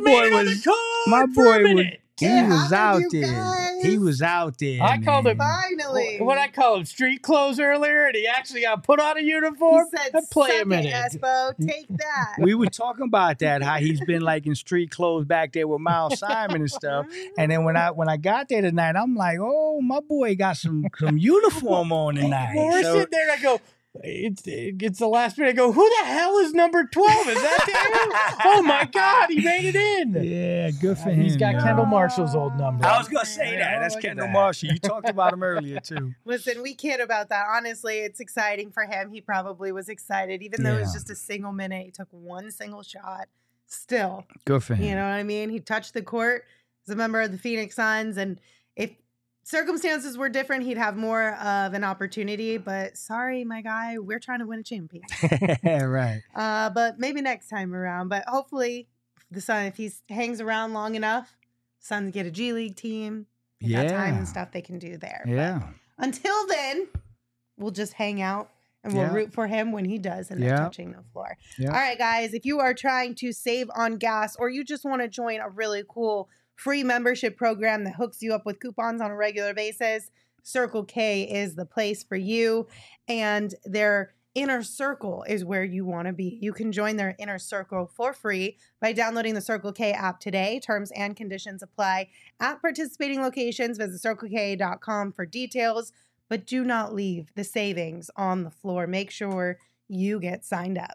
boy was. He was out there. He was out there. I called him finally. What I call him street clothes earlier, and he actually got put on a uniform. He said, play a minute, Espo, take that. We were talking about that, how he's been like in street clothes back there with Miles Simon and stuff. And then when I got there tonight, I'm like, oh, my boy got some uniform on tonight. Well, we're sitting there, and I go, it's the last minute. I go, who the hell is number 12? Is that him? Oh my God, he made it in. Yeah, good for him. He's got Kendall Marshall's old number. I was gonna say that. That's Kendall Marshall. You talked about him earlier too. Listen, we kid about that. Honestly, it's exciting for him. He probably was excited, even though it was just a single minute. He took one single shot. Still, good for him. You know what I mean? He touched the court as a member of the Phoenix Suns, and if circumstances were different, he'd have more of an opportunity, but sorry, my guy, we're trying to win a championship. Right. But maybe next time around. But hopefully, the Sun, if he hangs around long enough, Suns get a G League team. They got time and stuff they can do there. Yeah. But until then, we'll just hang out and we'll root for him when he does and they're touching the floor. Yeah. All right, guys, if you are trying to save on gas or you just want to join a really cool free membership program that hooks you up with coupons on a regular basis, Circle K is the place for you. And their inner circle is where you want to be. You can join their inner circle for free by downloading the Circle K app today. Terms and conditions apply at participating locations. Visit CircleK.com for details, but do not leave the savings on the floor. Make sure you get signed up.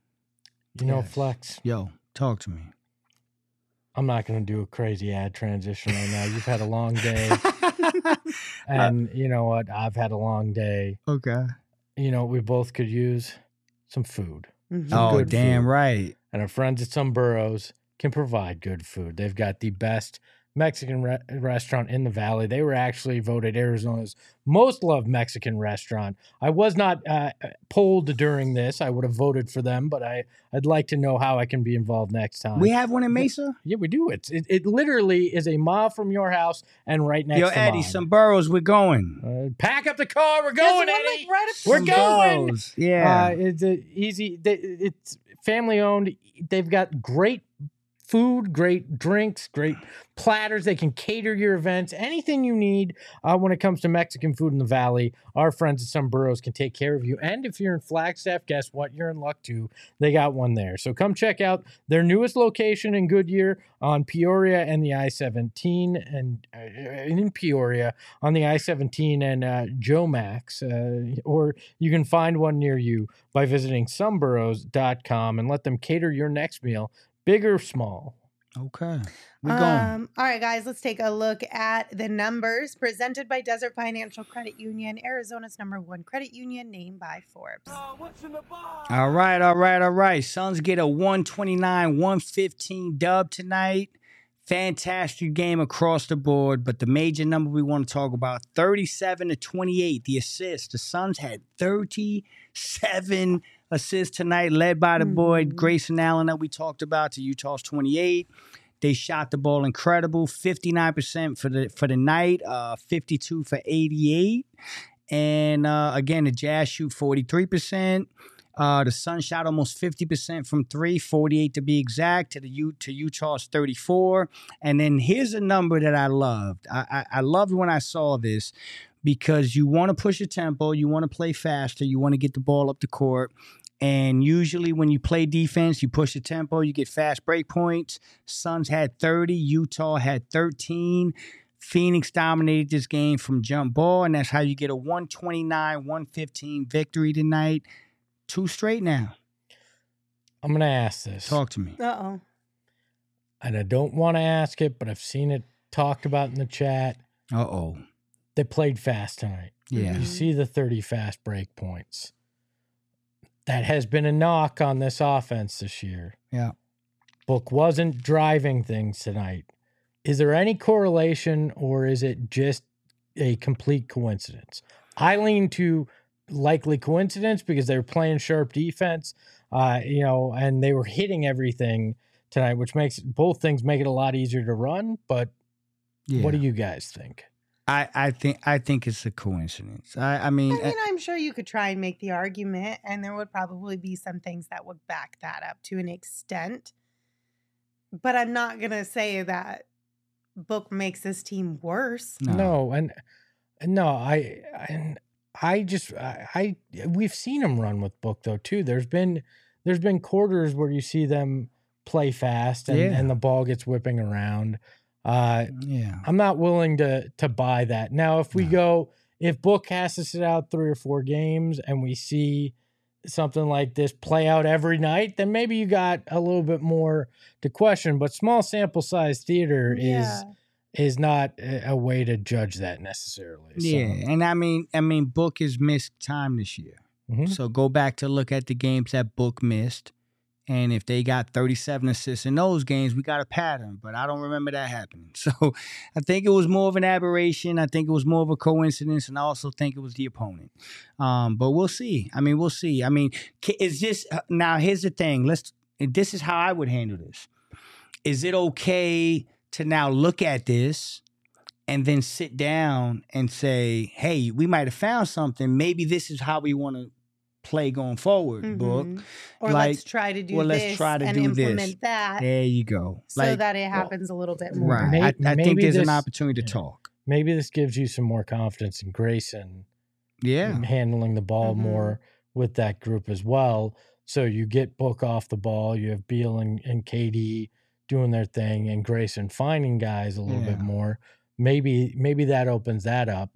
Flex. Yo, talk to me. I'm not going to do a crazy ad transition right now. You've had a long day. And you know what? I've had a long day. Okay. You know, we both could use some food. Mm-hmm. Some damn food. Right. And our friends at Some Burros can provide good food. They've got the best Mexican restaurant in the Valley. They were actually voted Arizona's most loved Mexican restaurant. I was not polled during this. I would have voted for them, but I'd like to know how I can be involved next time. We have one in Mesa? Yeah, we do. It literally is a mile from your house and right next to mine. Yo, Eddie, Some Burros, we're going. Pack up the car. We're going, Eddie. We're going. Burros. Yeah. It's easy. It's family owned. They've got great food, great drinks, great platters. They can cater your events, anything you need when it comes to Mexican food in the Valley. Our friends at Some Burros can take care of you. And if you're in Flagstaff, guess what? You're in luck too. They got one there. So come check out their newest location in Goodyear on Peoria and the I-17, and in Peoria on the I-17 and Joe Max. Or you can find one near you by visiting someburros.com and let them cater your next meal, big or small. Okay. We're going. All right, guys, let's take a look at the numbers presented by Desert Financial Credit Union, Arizona's #1 credit union, named by Forbes. All right. Suns get a 129-115 dub tonight. Fantastic game across the board, but the major number we want to talk about, 37-28, the assists. The Suns had 37 assists tonight, led by the boy Grayson Allen that we talked about, to Utah's 28. They shot the ball incredible, 59% for the night, 52 for 88. And again, the Jazz shoot 43%. The Suns shot almost 50% from three, 48 to be exact, to Utah's 34. And then here's a number that I loved. I loved when I saw this, because you want to push a tempo, you want to play faster, you want to get the ball up the court. And usually when you play defense, you push the tempo, you get fast break points. Suns had 30, Utah had 13. Phoenix dominated this game from jump ball, and that's how you get a 129-115 victory tonight. 2 straight now. I'm going to ask this. Talk to me. Uh-oh. And I don't want to ask it, but I've seen it talked about in the chat. Uh-oh. They played fast tonight. Yeah. You see the 30 fast break points. That has been a knock on this offense this year. Yeah. Book wasn't driving things tonight. Is there any correlation, or is it just a complete coincidence? I lean to likely coincidence because they were playing sharp defense, and they were hitting everything tonight, which makes both things make it a lot easier to run. But what do you guys think? I think it's a coincidence. I mean, I'm sure you could try and make the argument, and there would probably be some things that would back that up to an extent. But I'm not gonna say that Book makes this team worse. We've seen them run with Book though too. There's been quarters where you see them play fast and the ball gets whipping around. I'm not willing to buy that. Now, if Book has to sit out 3 or 4 games and we see something like this play out every night, then maybe you got a little bit more to question. But small sample size theater is not a way to judge that necessarily. So. Yeah, and I mean, Book has missed time this year. Mm-hmm. So go back to look at the games that Book missed. And if they got 37 assists in those games, we got a pattern. But I don't remember that happening. So I think it was more of an aberration. I think it was more of a coincidence. And I also think it was the opponent. But we'll see. We'll see. Is this – now, here's the thing. This is how I would handle this. Is it okay to now look at this and then sit down and say, hey, we might have found something. Maybe this is how we want to play going forward, Book. Or let's try to do this and implement that. There you go. So that it happens a little bit more. Right. I think there's an opportunity to talk. Maybe this gives you some more confidence in Grayson. Handling the ball more with that group as well. So you get Book off the ball. You have Beal and KD doing their thing and Grayson finding guys a little bit more. Maybe that opens that up.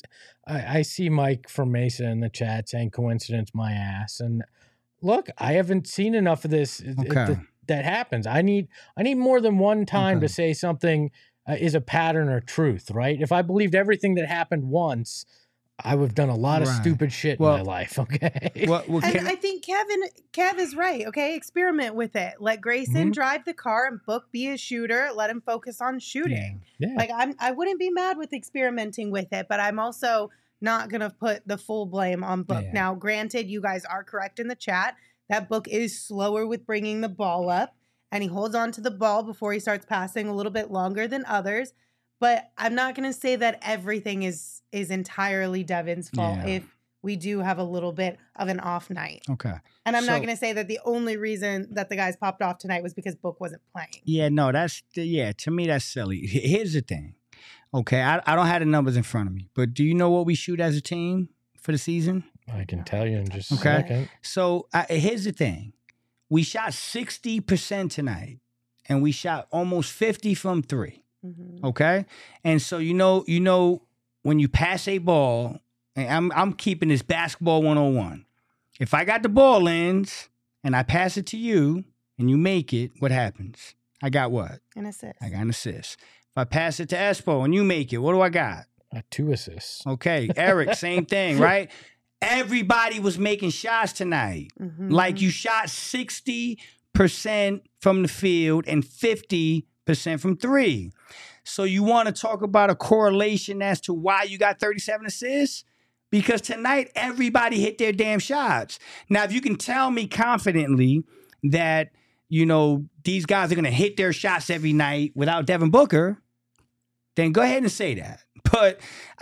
I see Mike from Mesa in the chat saying coincidence my ass. And look, I haven't seen enough of this that happens. I need more than one time to say something is a pattern or truth, right? If I believed everything that happened once, I would have done a lot of stupid shit in my life, okay? And I think Kev is right, okay? Experiment with it. Let Grayson drive the car and Book be a shooter. Let him focus on shooting. Yeah. I wouldn't be mad with experimenting with it, but I'm also not going to put the full blame on Book. Yeah. Now, granted, you guys are correct in the chat. That Book is slower with bringing the ball up, and he holds on to the ball before he starts passing a little bit longer than others. But I'm not going to say that everything is entirely Devin's fault if we do have a little bit of an off night. Okay. And I'm not going to say that the only reason that the guys popped off tonight was because Book wasn't playing. Yeah, no, to me, that's silly. Here's the thing. Okay, I don't have the numbers in front of me, but do you know what we shoot as a team for the season? I can tell you in just a second. So here's the thing. We shot 60% tonight, and we shot almost 50 from 3. Mm-hmm. Okay, and so you know when you pass a ball, and I'm keeping this basketball 101. If I got the ball ends and I pass it to you and you make it, what happens? I got what? An assist. I got an assist. If I pass it to Espo and you make it, what do I got? 2 assists. Okay, Eric, same thing, right? Everybody was making shots tonight. Mm-hmm. Like you shot 60% from the field and 50% from 3. So you want to talk about a correlation as to why you got 37 assists? Because tonight, everybody hit their damn shots. Now, if you can tell me confidently that, these guys are going to hit their shots every night without Devin Booker, then go ahead and say that. But,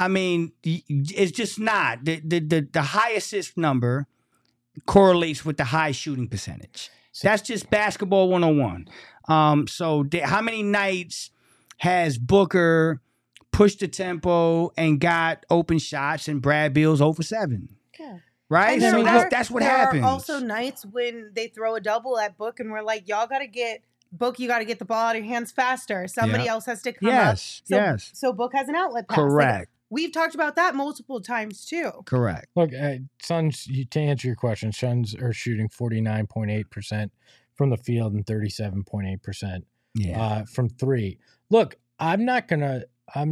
it's just not. The high assist number correlates with the high shooting percentage. That's just basketball 101. So how many nights has Booker pushed the tempo and got open shots and Brad Beal's 0 for 7? Yeah. Right? So that's what happens. There are also nights when they throw a double at Book and we're like, y'all got to get Book, you got to get the ball out of your hands faster. Somebody else has to come up. So Book has an outlet pass. Correct. Like, we've talked about that multiple times too. Correct. Look, Suns, to answer your question, Suns are shooting 49.8% from the field and 37.8% from three. Look, I'm not going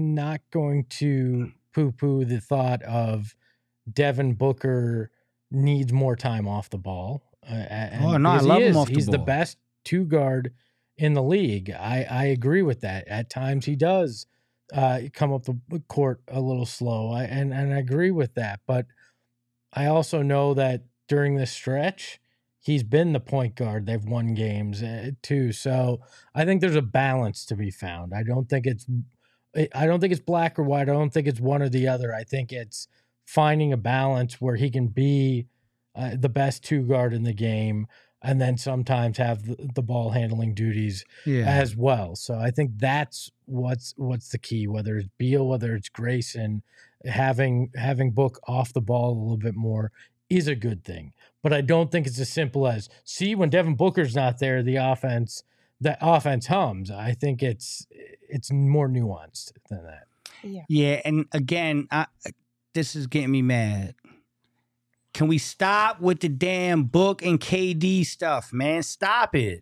to poo-poo the thought of Devin Booker needs more time off the ball. I love him off the ball. He's the best two guard in the league. I agree with that. At times he does come up the court a little slow, and I agree with that. But I also know that during this stretch, he's been the point guard. They've won games too. So I think there's a balance to be found. I don't think it's black or white. I don't think it's one or the other. I think it's finding a balance where he can be the best two guard in the game, and then sometimes have the ball handling duties as well. So I think that's what's the key, whether it's Beal, whether it's Grayson, having Book off the ball a little bit more is a good thing. But I don't think it's as simple as, see, when Devin Booker's not there, the offense hums. I think it's more nuanced than that. Yeah, and again, this is getting me mad. Can we stop with the damn Book and KD stuff, man? Stop it.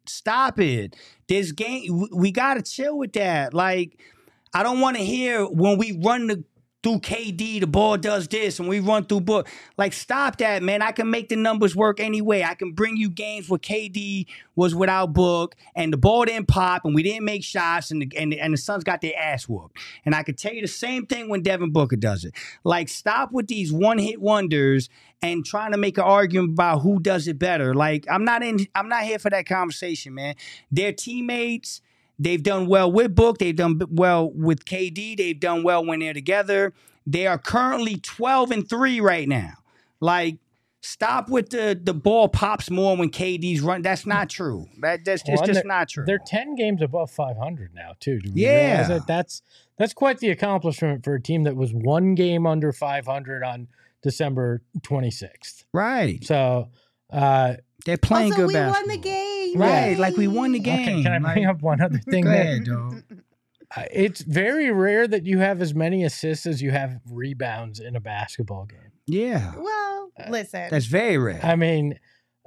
This game, we got to chill with that. Like, I don't want to hear when we run through KD, the ball does this, and we run through Book. Like, stop that, man. I can make the numbers work anyway. I can bring you games where KD was without Book, and the ball didn't pop, and we didn't make shots, and the Suns got their ass whooped. And I could tell you the same thing when Devin Booker does it. Like, stop with these one-hit wonders and trying to make an argument about who does it better. Like, I'm not here for that conversation, man. They're teammates. They've done well with Book. They've done well with KD. They've done well when they're together. They are currently 12-3 right now. Like, stop with the ball pops more when KD's run. That's not true. It's just not true. They're 10 games above 500 now, too. Do we realize that? That's quite the accomplishment for a team that was one game under 500 on December 26th. Right. So they're playing good basketball. We won the game. Right, like we won the game. Okay, can I bring up one other thing? Go ahead, dog. It's very rare that you have as many assists as you have rebounds in a basketball game. Yeah. Well, listen. That's very rare. I mean,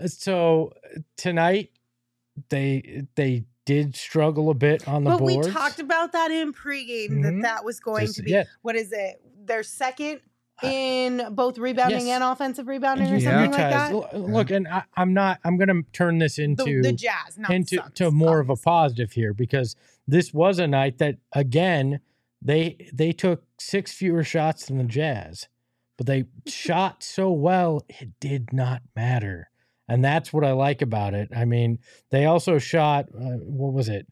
so tonight they did struggle a bit on the boards. But we talked about that in pregame, that was going to be, what is it? Their second in both rebounding and offensive rebounding or something like that. Look, and I'm going to turn this into the Jazz, not into Suns, to more of a positive here, because this was a night that, again, they took 6 fewer shots than the Jazz, but they shot so well it did not matter, and that's what I like about it. I mean, they also shot what was it?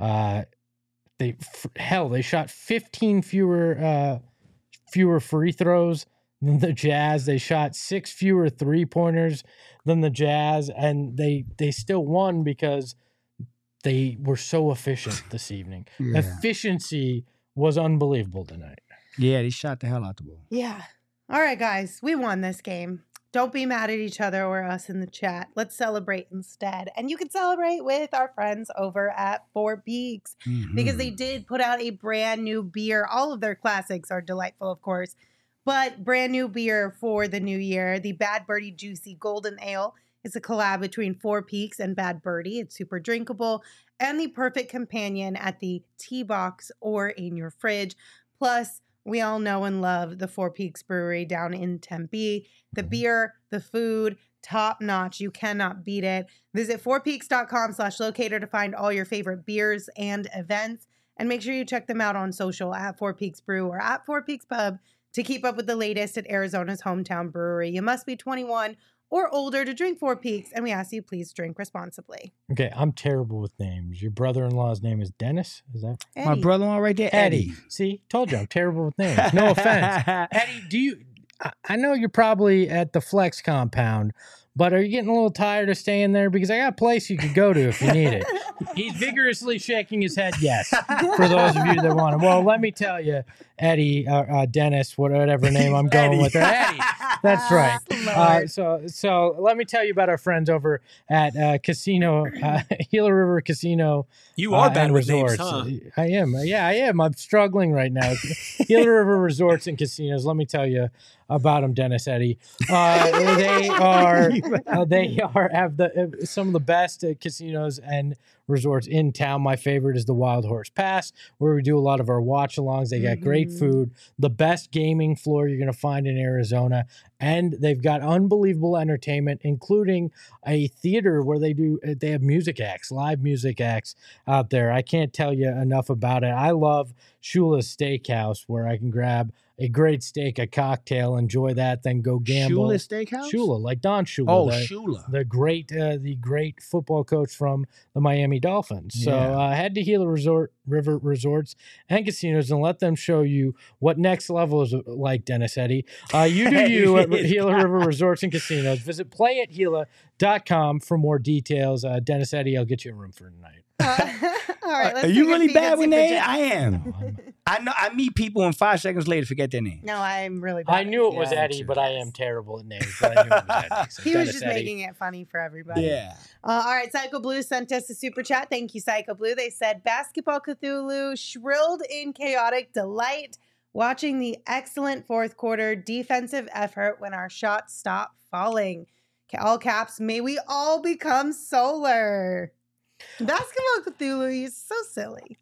They shot 15 fewer free throws than the Jazz. They shot 6 fewer 3-pointers than the Jazz, and they still won because they were so efficient this evening. Yeah. Efficiency was unbelievable tonight. Yeah, they shot the hell out the ball. Yeah. All right, guys, we won this game. Don't be mad at each other or us in the chat. Let's celebrate instead. And you can celebrate with our friends over at Four Peaks because they did put out a brand new beer. All of their classics are delightful, of course, but brand new beer for the new year. The Bad Birdie Juicy Golden Ale is a collab between Four Peaks and Bad Birdie. It's super drinkable and the perfect companion at the tea box or in your fridge. Plus, we all know and love the Four Peaks Brewery down in Tempe. The beer, the food, top notch. You cannot beat it. Visit fourpeaks.com/locator to find all your favorite beers and events. And make sure you check them out on social at Four Peaks Brew or at Four Peaks Pub to keep up with the latest at Arizona's hometown brewery. You must be 21 or older to drink Four Peaks, and we ask you please drink responsibly. Okay, I'm terrible with names. Your brother-in-law's name is Dennis? Is that Eddie. My brother-in-law right there? Eddie. See, told you I'm terrible with names. No offense. Eddie, I know you're probably at the Flex compound, but are you getting a little tired of staying there? Because I got a place you could go to if you need it. He's vigorously shaking his head yes, for those of you that want to. Well, let me tell you, Eddie, Dennis, whatever name I'm going with. Eddie, that's right. Lord. So let me tell you about our friends over at Casino, Gila River Casino. You are bad with resorts. names, huh? I am. Yeah, I am. I'm struggling right now. Gila River Resorts and Casinos. Let me tell you about them, Dennis Eddy. They have some of the best casinos and resorts in town. My favorite is the Wild Horse Pass, where we do a lot of our watch-alongs. They got great food, the best gaming floor you're going to find in Arizona, and they've got unbelievable entertainment, including a theater where they have music acts, live music acts out there. I can't tell you enough about it. I love Shula's Steakhouse, where I can grab a great steak, a cocktail, enjoy that, then go gamble. Shula Steakhouse? Shula, like Don Shula. Oh, Shula. The great football coach from the Miami Dolphins. So head to Gila River Resorts and Casinos and let them show you what next level is like, Dennis Eddy. You do you at Gila River Resorts and Casinos. Visit playatgila.com for more details. Dennis Eddy, I'll get you a room for tonight. All right, let's Are you take a really peek bad at with Super names? Chat. I am. I know. I meet people and 5 seconds later forget their name. No, I'm really bad. I knew it was Yeah. Eddie, but I am terrible at names. But I knew it was Eddie. So He was Dennis just Eddy. making it funny for everybody. Yeah. All right, Psycho Blue sent us a super chat. Thank you, Psycho Blue. They said, Basketball Cthulhu shrilled in chaotic delight watching the excellent fourth quarter defensive effort when our shots stopped falling. All caps, may we all become solar. Basketball Cthulhu, you're so silly.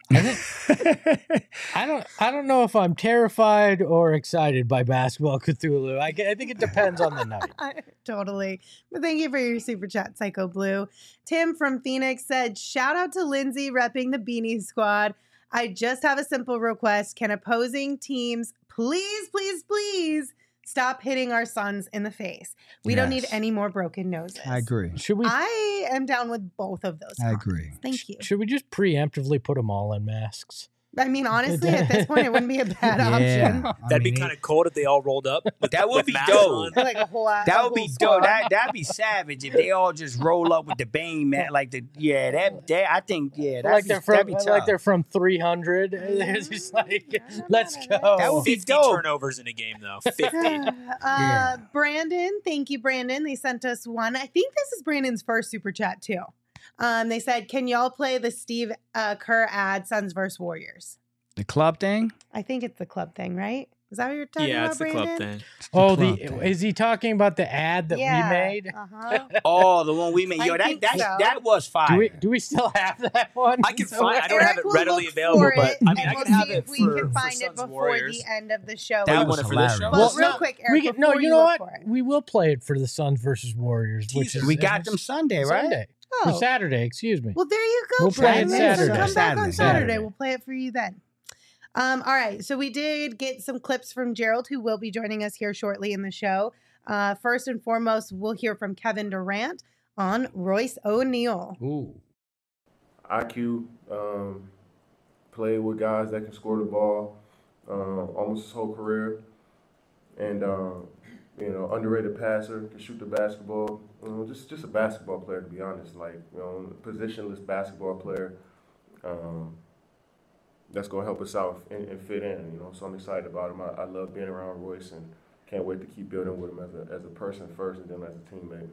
I don't know if I'm terrified or excited by Basketball Cthulhu. I think it depends on the night. Totally. But thank you for your super chat, Psycho Blue. Tim from Phoenix said, shout out to Lindsay repping the Beanie Squad. I just have a simple request. Can opposing teams please stop hitting our sons in the face? We don't need any more broken noses. I agree. I am down with both of those. I agree. comments. Thank you. Should we just preemptively put them all in masks? I mean, honestly, at this point, it wouldn't be a bad option. That'd be kind of cool if they all rolled up. That would with be masks dope. on. Like a whole, That would be dope. That'd be savage if they all just roll up with the bang, man. Like I think Like they're from 300. They're just like, let's go. That would be 50 dope. turnovers in a game, though. 50. Brandon, thank you, Brandon. They sent us one. I think this is Brandon's first super chat too. They said, "Can y'all play the Steve Kerr ad, Suns vs Warriors?" The club thing? I think it's the club thing, right? Is that what you're talking about, It's the Brandon? club thing. Oh, club thing. is he talking about the ad that we made? Uh-huh. Oh, the one we made. Yo, I think so. that was fire. Do we still have that one? I can find. I don't have it Eric will readily look available, for but it, I mean, and I we'll can have see it if we can for find it Suns before Warriors. the end of the show. That you was want it for this show? hilarious. Well, real quick, Eric, before you know look what? for it. We will play it for the Suns versus Warriors, which is We got them Sunday, right? Sunday. Oh. Or Saturday, excuse me. Well, there you go. We'll play it Brandon. So Saturday. come back on Saturday. Saturday. We'll play it for you then. All right. So we did get some clips from Gerald, who will be joining us here shortly in the show. First and foremost, we'll hear from Kevin Durant on Royce O'Neal. Ooh. IQ, played with guys that can score the ball almost his whole career. And, underrated passer, can shoot the basketball. Just a basketball player, to be honest. Positionless basketball player that's going to help us out and fit in, So I'm excited about him. I love being around Royce and can't wait to keep building with him as a person first and then as a teammate.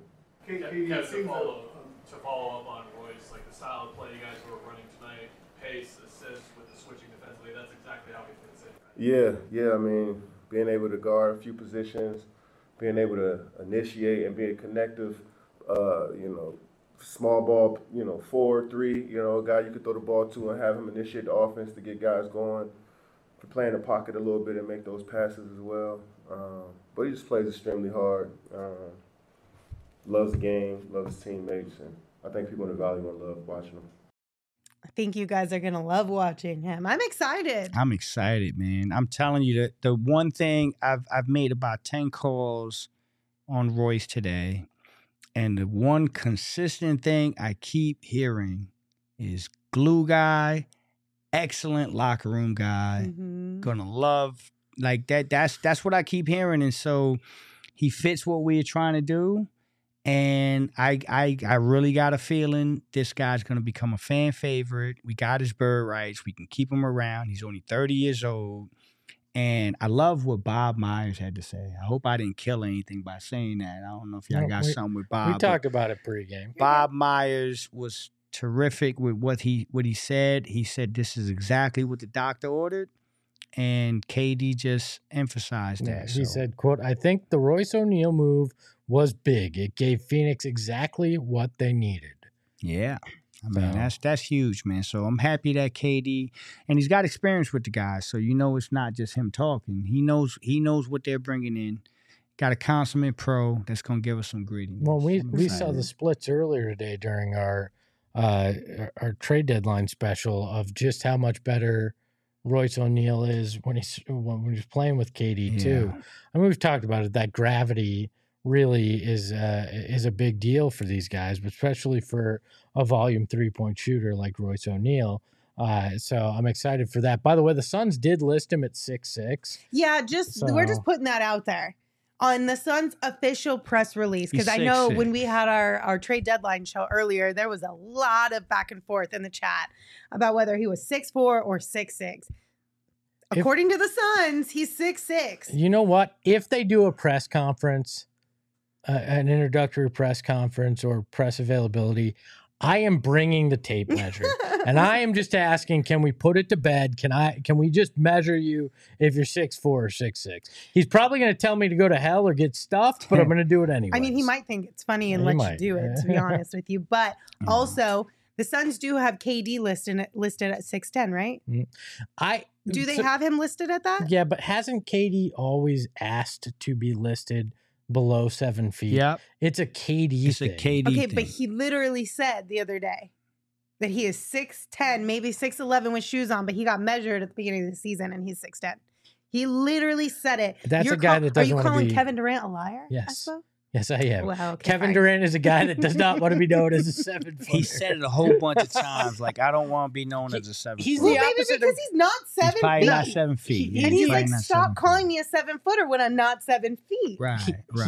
To follow up on Royce, like the style of play you guys were running tonight, pace, assist with the switching defensively, that's exactly how he fits in. Yeah. I mean, being able to guard a few positions, being able to initiate and be a connective, small ball, 4-3, a guy you could throw the ball to and have him initiate the offense to get guys going, to play in the pocket a little bit and make those passes as well. But he just plays extremely hard. Loves the game, loves his teammates, and I think people in the Valley will love watching him. I think you guys are going to love watching him. I'm excited. I'm excited, man. I'm telling you that the one thing I've made about 10 calls on Royce today, and the one consistent thing I keep hearing is glue guy, excellent locker room guy, gonna love like that. That's what I keep hearing, and so he fits what we're trying to do. And I really got a feeling this guy's going to become a fan favorite. We got his bird rights. We can keep him around. He's only 30 years old. And I love what Bob Myers had to say. I hope I didn't kill anything by saying that. I don't know if y'all got something with Bob. We talked about it pregame. Bob Myers was terrific with what he said. He said this is exactly what the doctor ordered, and KD just emphasized that. He said, quote, I think the Royce O'Neal move was big. It gave Phoenix exactly what they needed. Yeah. I mean, that's huge, man. So I'm happy that KD, and he's got experience with the guys, so you know it's not just him talking. He knows what they're bringing in. Got a consummate pro that's going to give us some grittiness. Well, we saw the splits earlier today during our trade deadline special of just how much better Royce O'Neal is when he's playing with KD too. I mean, we've talked about it. That gravity really is a big deal for these guys, but especially for a volume 3-point shooter like Royce O'Neal. So I'm excited for that. By the way, the Suns did list him at 6'6". Yeah, we're just putting that out there on the Suns official press release, because I know when we had our trade deadline show earlier, there was a lot of back and forth in the chat about whether he was 6'4" or 6'6". According to the Suns, he's 6'6". You know what? If they do a press conference, an introductory press conference or press availability, I am bringing the tape measure, and I am just asking, can we put it to bed? Can we just measure you if you're 6'4" or 6'6"? He's probably going to tell me to go to hell or get stuffed, but I'm going to do it anyway. I mean, he might think it's funny and let you do it, to be honest with you. But also, the Suns do have KD listed at 6'10", right? Do they have him listed at that? Yeah, but hasn't KD always asked to be listed below 7 feet? Yeah, it's a KD thing. Okay, but he literally said the other day that he is 6'10", maybe 6'11" with shoes on, but he got measured at the beginning of the season and he's 6'10". He literally said it. That's a guy that doesn't want to be... Are you calling Kevin Durant a liar? Yes. Yes, I am. Well, okay, Kevin Durant is a guy that does not want to be known as a 7-footer. He said it a whole bunch of times. Like, I don't want to be known as a 7-footer. He's the opposite because he's not 7 feet. He's probably not 7 feet. And he's like, stop calling me a 7-footer when I'm not 7 feet. Right.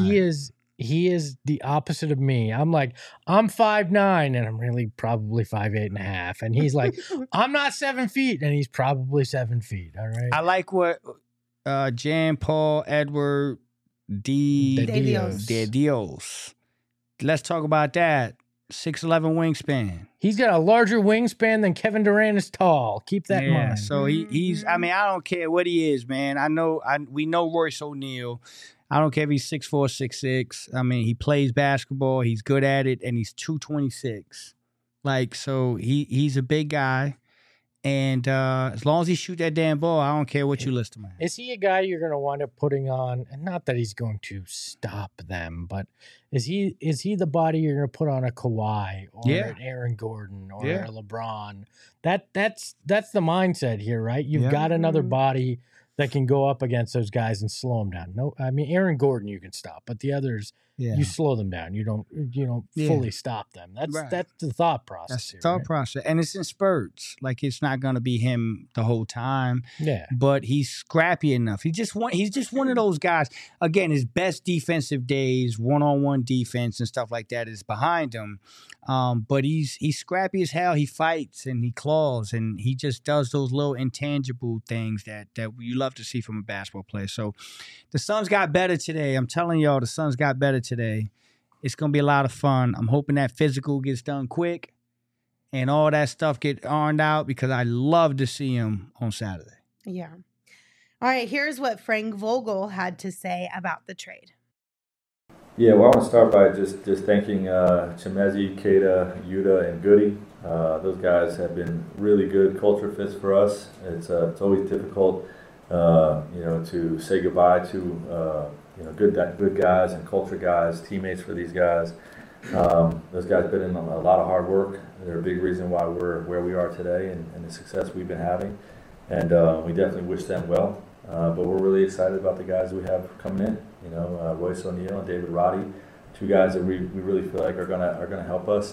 He is the opposite of me. I'm like, I'm 5'9", and I'm really probably 5'8.5". And he's like, I'm not 7 feet, and he's probably 7 feet. All right. I like what Jan Paul Edward De Dios. Let's talk about that. 6'11" wingspan. He's got a larger wingspan than Kevin Durant is tall. Keep that in mind. So he's. I mean, I don't care what he is, man. We know Royce O'Neal. I don't care if he's 6'4", 6'6". I mean, he plays basketball. He's good at it, and he's 226. Like, so he's a big guy. And as long as he shoot that damn ball, I don't care what you list him at. Is he a guy you're going to wind up putting on? And not that he's going to stop them, but is he the body you're going to put on a Kawhi or an Aaron Gordon or a LeBron? That's the mindset here, right? You've got another body that can go up against those guys and slow them down. No, I mean, Aaron Gordon you can stop, but the others, you slow them down. You don't fully stop them. That's the thought process. That's the thought process, and it's in spurts. Like, it's not going to be him the whole time. Yeah, but he's scrappy enough. He's just one of those guys. Again, his best defensive days, one-on-one defense and stuff like that, is behind him. But he's scrappy as hell. He fights and he claws and he just does those little intangible things that you love to see from a basketball player. So the Suns got better today. I'm telling y'all, the Suns got better today. It's going to be a lot of fun. I'm hoping that physical gets done quick and all that stuff get ironed out, because I love to see him on Saturday. Yeah. All right, here's what Frank Vogel had to say about the trade. Yeah, well, I want to start by just thanking Chimezie, Keita, Yuta, and Goody. Those guys have been really good culture fits for us. It's always difficult, to say goodbye to good guys and culture guys, teammates for these guys. Those guys put in a lot of hard work. They're a big reason why we're where we are today and the success we've been having. And we definitely wish them well. But we're really excited about the guys we have coming in. Royce O'Neal and David Roddy, two guys that we really feel like are gonna help us.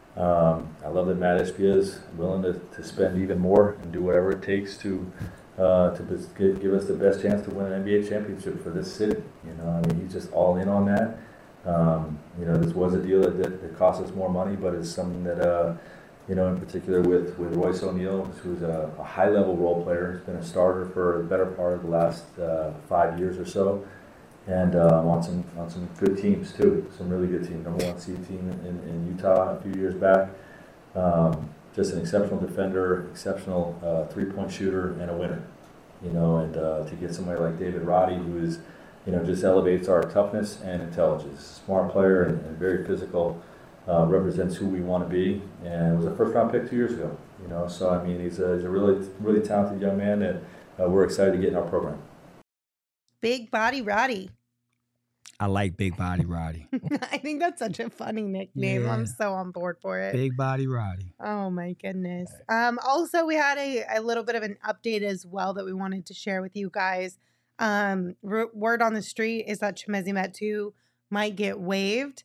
I love that Matt Ishbia is willing to spend even more and do whatever it takes to give us the best chance to win an NBA championship for this city. He's just all in on that. This was a deal that cost us more money, but it's something that in particular with Royce O'Neal, who's a high-level role player. He's been a starter for the better part of the last 5 years or so, and on some good teams too. Some really good teams. Number 1 seed team in Utah a few years back. Just an exceptional defender, exceptional three-point shooter, and a winner. And to get somebody like David Roddy, who is, just elevates our toughness and intelligence. Smart player and very physical. Represents who we want to be, and was a first-round pick 2 years ago. So I mean, he's a really, really talented young man, and we're excited to get in our program. Big Body Roddy. I like Big Body Roddy. I think that's such a funny nickname. Yeah. I'm so on board for it. Big Body Roddy. Oh my goodness. Also, we had a little bit of an update as well that we wanted to share with you guys. Word on the street is that Chimezie Metu might get waived.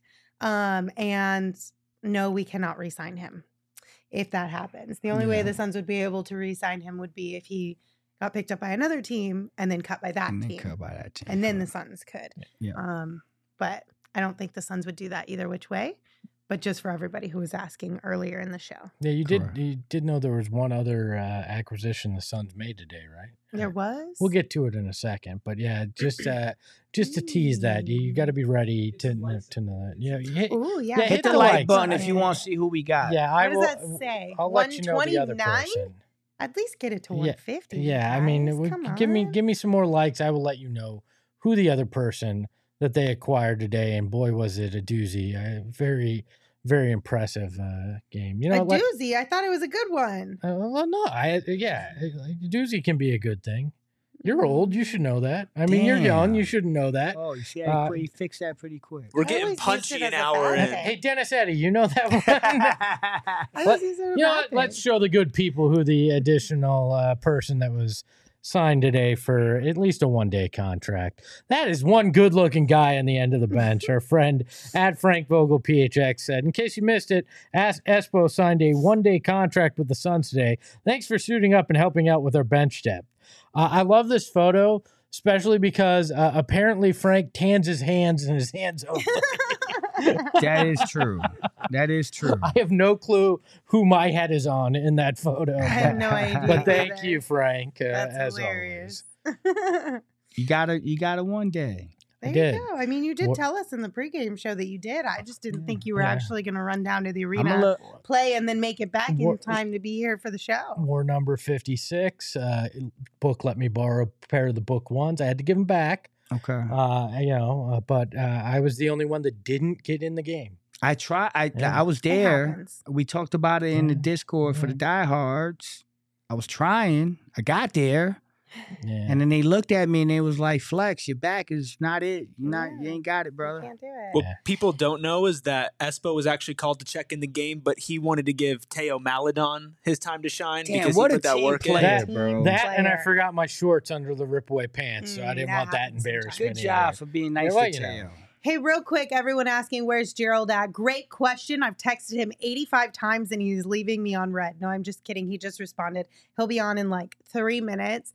And no, we cannot re-sign him if that happens. The only way the Suns would be able to re-sign him would be if he got picked up by another team and then cut by that team. And then the Suns could. Yeah. But I don't think the Suns would do that either which way. But just for everybody who was asking earlier in the show. Yeah, you did know there was one other acquisition the Suns made today, right? There was? We'll get to it in a second, but yeah, just to tease that, you got to be ready to know that. Yeah, hit the like button if you want to see who we got. Yeah, what does that say? I'll let you know the other person. At least get it to 150. Yeah, guys. I mean, give me some more likes. I will let you know who the other person that they acquired today, and boy, was it a doozy! Very, very impressive game. Doozy. I thought it was a good one. Well, no, a doozy can be a good thing. You're old. You should know that. I mean, you're young. You shouldn't know that. Oh, you see, you fixed that pretty quick. We're getting punchy an hour in. Hey, Dennis Eddy, you know that one? Let's show the good people who the additional person that was signed today for at least a one-day contract. That is one good-looking guy on the end of the bench. Our friend at Frank Vogel PHX said, in case you missed it, Espo signed a one-day contract with the Suns today. Thanks for suiting up and helping out with our bench depth. I love this photo, especially because apparently Frank tans his hands and his hands open. That is true. That is true. I have no clue who my head is on in that photo. I have no idea. But thank you, Frank. That's as hilarious. Always. You got a one day. There you go. I mean, you did tell us in the pregame show that you did. I just didn't think you were actually going to run down to the arena, play, and then make it back in time to be here for the show. War number 56. Book let me borrow a pair of the book ones. I had to give them back. Okay. But I was the only one that didn't get in the game. I was there. We talked about it in the Discord for the diehards. I was trying. I got there. Yeah. And then they looked at me and they was like, Flex, your back is not it. You ain't got it, brother. Can't do it. What people don't know is that Espo was actually called to check in the game, but he wanted to give Teo Maledon his time to shine because he put that work in. And I forgot my shorts under the rip-away pants, so I didn't want that embarrassment. Good job for being nice to Teo. Hey, real quick, everyone asking, where's Gerald at? Great question. I've texted him 85 times and he's leaving me on red. No, I'm just kidding. He just responded. He'll be on in like 3 minutes.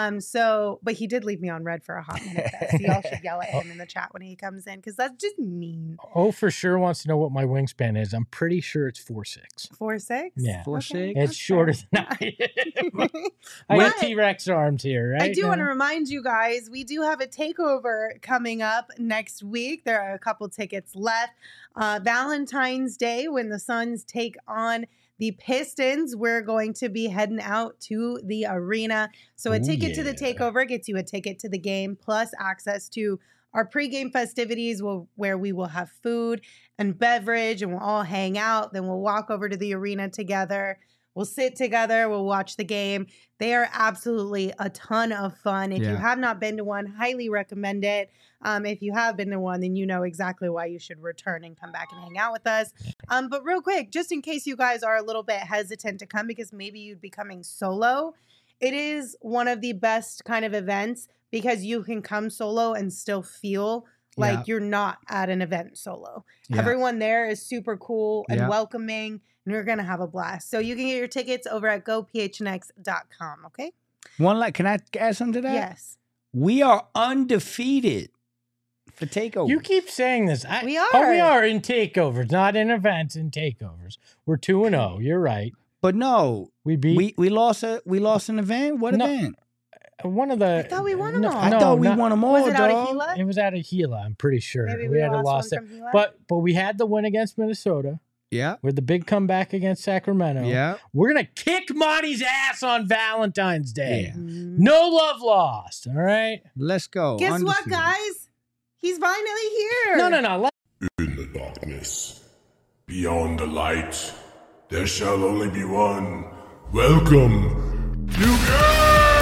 But he did leave me on red for a hot minute. So y'all should yell at him in the chat when he comes in because that's just mean. Oh, for sure wants to know what my wingspan is. I'm pretty sure it's 4'6". 4'6"? Yeah. 4'6"? It's shorter than I am. I got T-Rex arms here, right? I do want to remind you guys, we do have a takeover coming up next week. There are a couple tickets left. Valentine's Day, when the Suns take on the Pistons, we're going to be heading out to the arena. So a ticket to the takeover gets you a ticket to the game, plus access to our pregame festivities where we will have food and beverage and we'll all hang out. Then we'll walk over to the arena together. We'll sit together. We'll watch the game. They are absolutely a ton of fun. If you have not been to one, highly recommend it. If you have been to one, then you know exactly why you should return and come back and hang out with us. But real quick, just in case you guys are a little bit hesitant to come because maybe you'd be coming solo, it is one of the best kind of events because you can come solo and still feel like you're not at an event solo. Everyone there is super cool and welcoming, and you're going to have a blast. So you can get your tickets over at gophnx.com, okay? Can I add something to that? Yes. We are undefeated for takeovers. You keep saying this. We are. Oh, we are in takeovers, not in events, in takeovers. We're 2-0. You're right. But no, we lost an event. What event? One of the. I thought we won them all. I thought we won them all. Was it out of dog. Gila? It was out of Gila. I'm pretty sure. Maybe we had a lost loss one there. from Gila? But we had the win against Minnesota. Yeah. With the big comeback against Sacramento. Yeah. We're going to kick Monty's ass on Valentine's Day. Yeah. No love lost. All right? Let's go. Guess what, guys? He's finally here. No. In the darkness, beyond the light, there shall only be one. Welcome to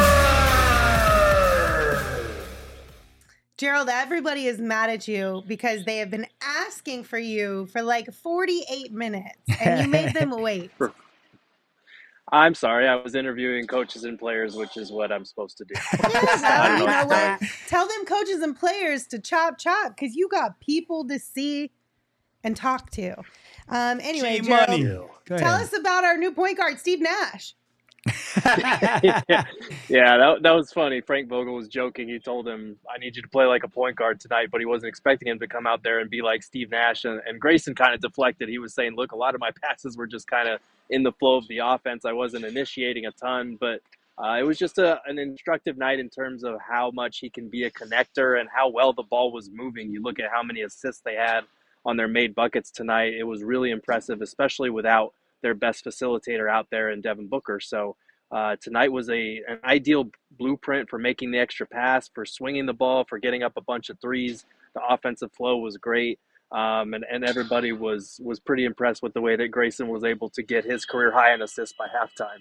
Gerald, everybody is mad at you because they have been asking for you for like 48 minutes and you made them wait. I'm sorry. I was interviewing coaches and players, which is what I'm supposed to do. Yeah, you know what? Tell them coaches and players to chop because you got people to see and talk to. Anyway, Gerald, tell us about our new point guard, Steve Nash. Yeah, that was funny. Frank Vogel was joking. He told him, I need you to play like a point guard tonight, but he wasn't expecting him to come out there and be like Steve Nash. And Grayson kind of deflected. He was saying, look, a lot of my passes were just kind of in the flow of the offense. I wasn't initiating a ton, but it was just an instructive night in terms of how much he can be a connector and how well the ball was moving. You look at how many assists they had on their made buckets tonight. It was really impressive, especially without their best facilitator out there in Devin Booker. So tonight was an ideal blueprint for making the extra pass, for swinging the ball, for getting up a bunch of threes. The offensive flow was great. And everybody was pretty impressed with the way that Grayson was able to get his career high in assists by halftime.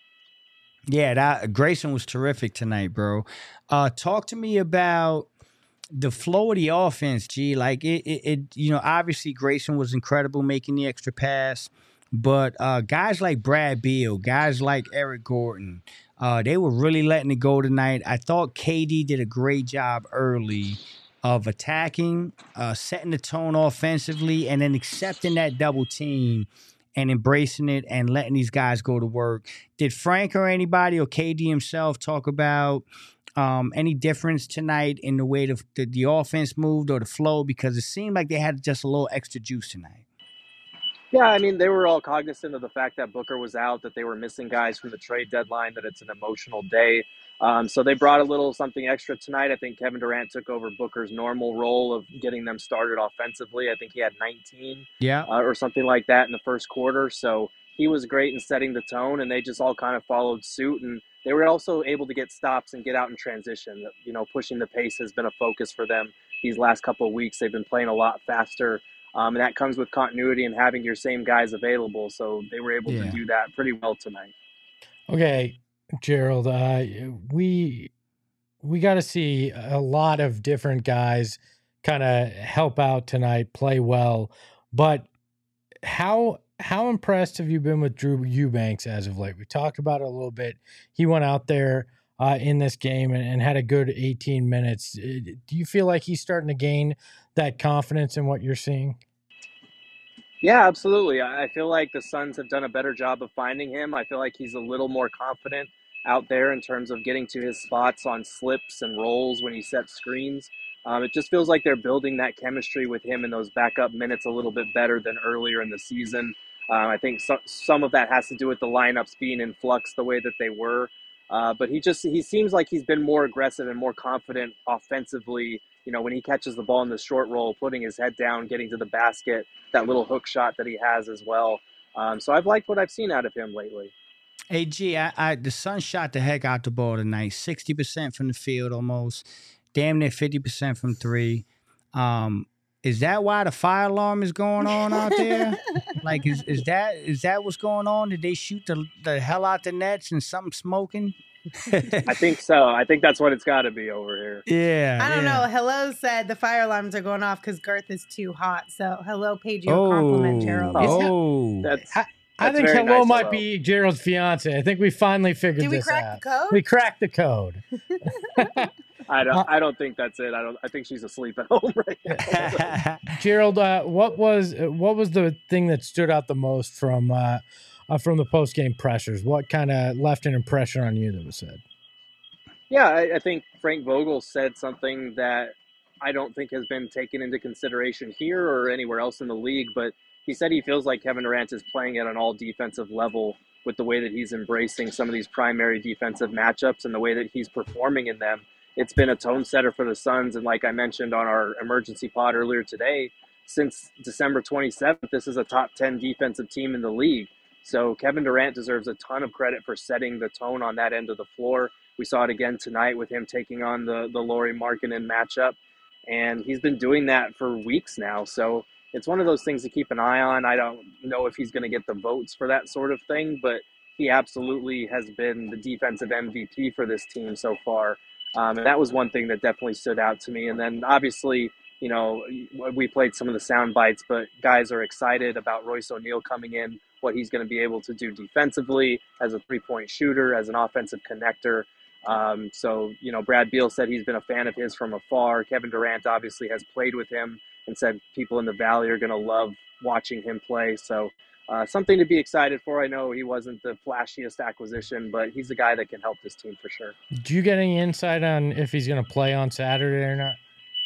Yeah, Grayson was terrific tonight, bro. Talk to me about the flow of the offense, G. Like it obviously Grayson was incredible making the extra pass. But guys like Brad Beal, guys like Eric Gordon, they were really letting it go tonight. I thought KD did a great job early of attacking, setting the tone offensively, and then accepting that double team and embracing it and letting these guys go to work. Did Frank or anybody or KD himself talk about any difference tonight in the way the offense moved or the flow? Because it seemed like they had just a little extra juice tonight. Yeah, I mean, they were all cognizant of the fact that Booker was out, that they were missing guys from the trade deadline, that it's an emotional day. So they brought a little something extra tonight. I think Kevin Durant took over Booker's normal role of getting them started offensively. I think he had 19 or something like that in the first quarter. So he was great in setting the tone, and they just all kind of followed suit. And they were also able to get stops and get out in transition. You know, pushing the pace has been a focus for them these last couple of weeks. They've been playing a lot faster. And that comes with continuity and having your same guys available. So they were able to do that pretty well tonight. Okay, Gerald, we got to see a lot of different guys kind of help out tonight, play well. But how impressed have you been with Drew Eubanks as of late? We talked about it a little bit. He went out there in this game and had a good 18 minutes. Do you feel like he's starting to gain that confidence in what you're seeing? Yeah, absolutely. I feel like the Suns have done a better job of finding him. I feel like he's a little more confident out there in terms of getting to his spots on slips and rolls when he sets screens. It just feels like they're building that chemistry with him in those backup minutes a little bit better than earlier in the season. I think some of that has to do with the lineups being in flux the way that they were. But he seems like he's been more aggressive and more confident offensively. You know, when he catches the ball in the short roll, putting his head down, getting to the basket, that little hook shot that he has as well. So I've liked what I've seen out of him lately. Hey, G, the Suns shot the heck out the ball tonight. 60% from the field almost. Damn near 50% from three. Is that why the fire alarm is going on out there? Like, is that what's going on? Did they shoot the hell out the nets and something smoking? I think so. I think that's what it's got to be over here. Yeah. I don't know. Hello said the fire alarms are going off because Garth is too hot. So Hello paid you a compliment, Gerald. I think Hello nice might be Gerald's fiance. I think we finally figured this out. Did we crack the code? We cracked the code. I don't think that's it. I think she's asleep at home right now. Gerald, what was the thing that stood out the most from the post-game pressures? What kind of left an impression on you that was said? Yeah, I think Frank Vogel said something that I don't think has been taken into consideration here or anywhere else in the league, but he said he feels like Kevin Durant is playing at an all defensive level with the way that he's embracing some of these primary defensive matchups and the way that he's performing in them. It's been a tone setter for the Suns. And like I mentioned on our emergency pod earlier today, since December 27th, this is a top 10 defensive team in the league. So Kevin Durant deserves a ton of credit for setting the tone on that end of the floor. We saw it again tonight with him taking on the Lauri Markkanen matchup. And he's been doing that for weeks now. So it's one of those things to keep an eye on. I don't know if he's going to get the votes for that sort of thing, but he absolutely has been the defensive MVP for this team so far. And that was one thing that definitely stood out to me. And then obviously, you know, we played some of the sound bites, but guys are excited about Royce O'Neal coming in, what he's going to be able to do defensively as a three-point shooter, as an offensive connector. So, you know, Brad Beal said he's been a fan of his from afar. Kevin Durant obviously has played with him and said people in the Valley are going to love watching him play. So something to be excited for. I know he wasn't the flashiest acquisition, but he's a guy that can help this team for sure. Do you get any insight on if he's going to play on Saturday or not?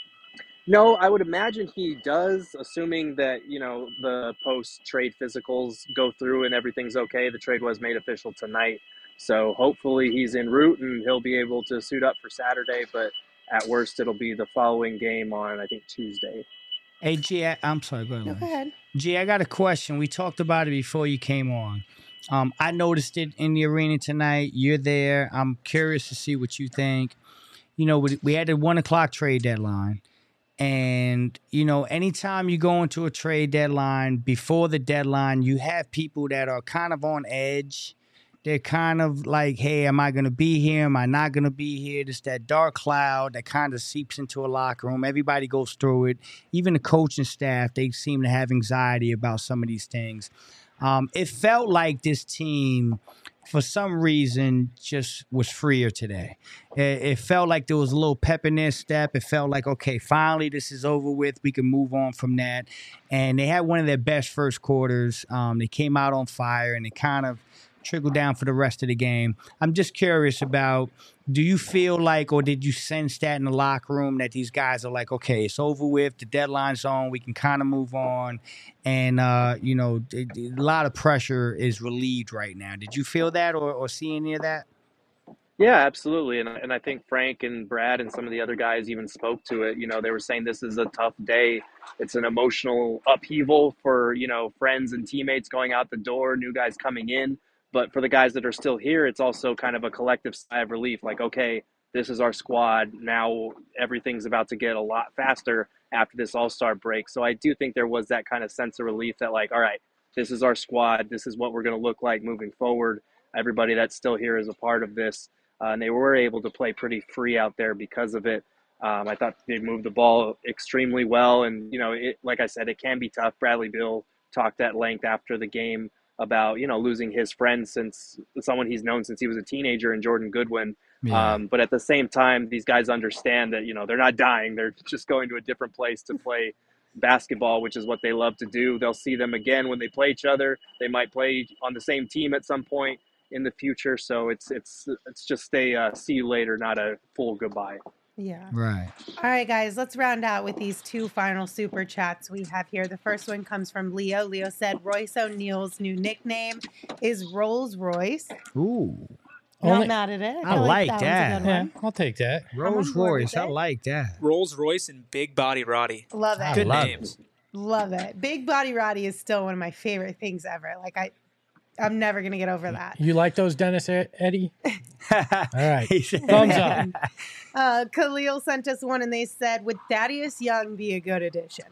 No, I would imagine he does, assuming that, you know, the post-trade physicals go through and everything's okay. The trade was made official tonight. So hopefully he's en route and he'll be able to suit up for Saturday. But at worst, it'll be the following game on, I think, Tuesday. Hey, G, I'm sorry. Go ahead. No, go ahead. G, I got a question. We talked about it before you came on. I noticed it in the arena tonight. You're there. I'm curious to see what you think. You know, we had the 1 o'clock trade deadline. And, you know, anytime you go into a trade deadline, before the deadline, you have people that are kind of on edge. They're kind of like, hey, am I going to be here? Am I not going to be here? There's that dark cloud that kind of seeps into a locker room. Everybody goes through it. Even the coaching staff, they seem to have anxiety about some of these things. It felt like this team, for some reason, just was freer today. It felt like there was a little pep in their step. It felt like, okay, finally this is over with. We can move on from that. And they had one of their best first quarters. They came out on fire, and it kind of trickled down for the rest of the game. I'm just curious about, do you feel like, or did you sense that in the locker room that these guys are like, okay, it's over with, the deadline's on, we can kind of move on, and, you know, a lot of pressure is relieved right now. Did you feel that or see any of that? Yeah, absolutely. And I think Frank and Brad and some of the other guys even spoke to it. You know, they were saying this is a tough day. It's an emotional upheaval for, you know, friends and teammates going out the door, new guys coming in. But for the guys that are still here, it's also kind of a collective sigh of relief. Like, okay, this is our squad. Now everything's about to get a lot faster after this all-star break. So I do think there was that kind of sense of relief that, like, all right, this is our squad. This is what we're going to look like moving forward. Everybody that's still here is a part of this. And they were able to play pretty free out there because of it. I thought they moved the ball extremely well. And, you know, like I said, it can be tough. Bradley Beal talked at length after the game about, you know, losing his friend, since someone he's known since he was a teenager, in Jordan Goodwin. Yeah. But at the same time, these guys understand that, you know, they're not dying. They're just going to a different place to play basketball, which is what they love to do. They'll see them again when they play each other. They might play on the same team at some point in the future. So it's just a see you later, not a full goodbye. Yeah. Right. All right, guys, let's round out with these two final super chats we have here. The first one comes from Leo. Leo said Royce O'Neal's new nickname is Rolls Royce. Ooh. Not mad at it. I like that. Yeah, I'll take that. Rolls Royce. I like that. Rolls Royce and Big Body Roddy. Love it. Good names. Love it. Big Body Roddy is still one of my favorite things ever. Like I'm never going to get over that. You like those, Dennis Eddie? All right. Thumbs up. Khalil sent us one and they said, would Thaddeus Young be a good addition?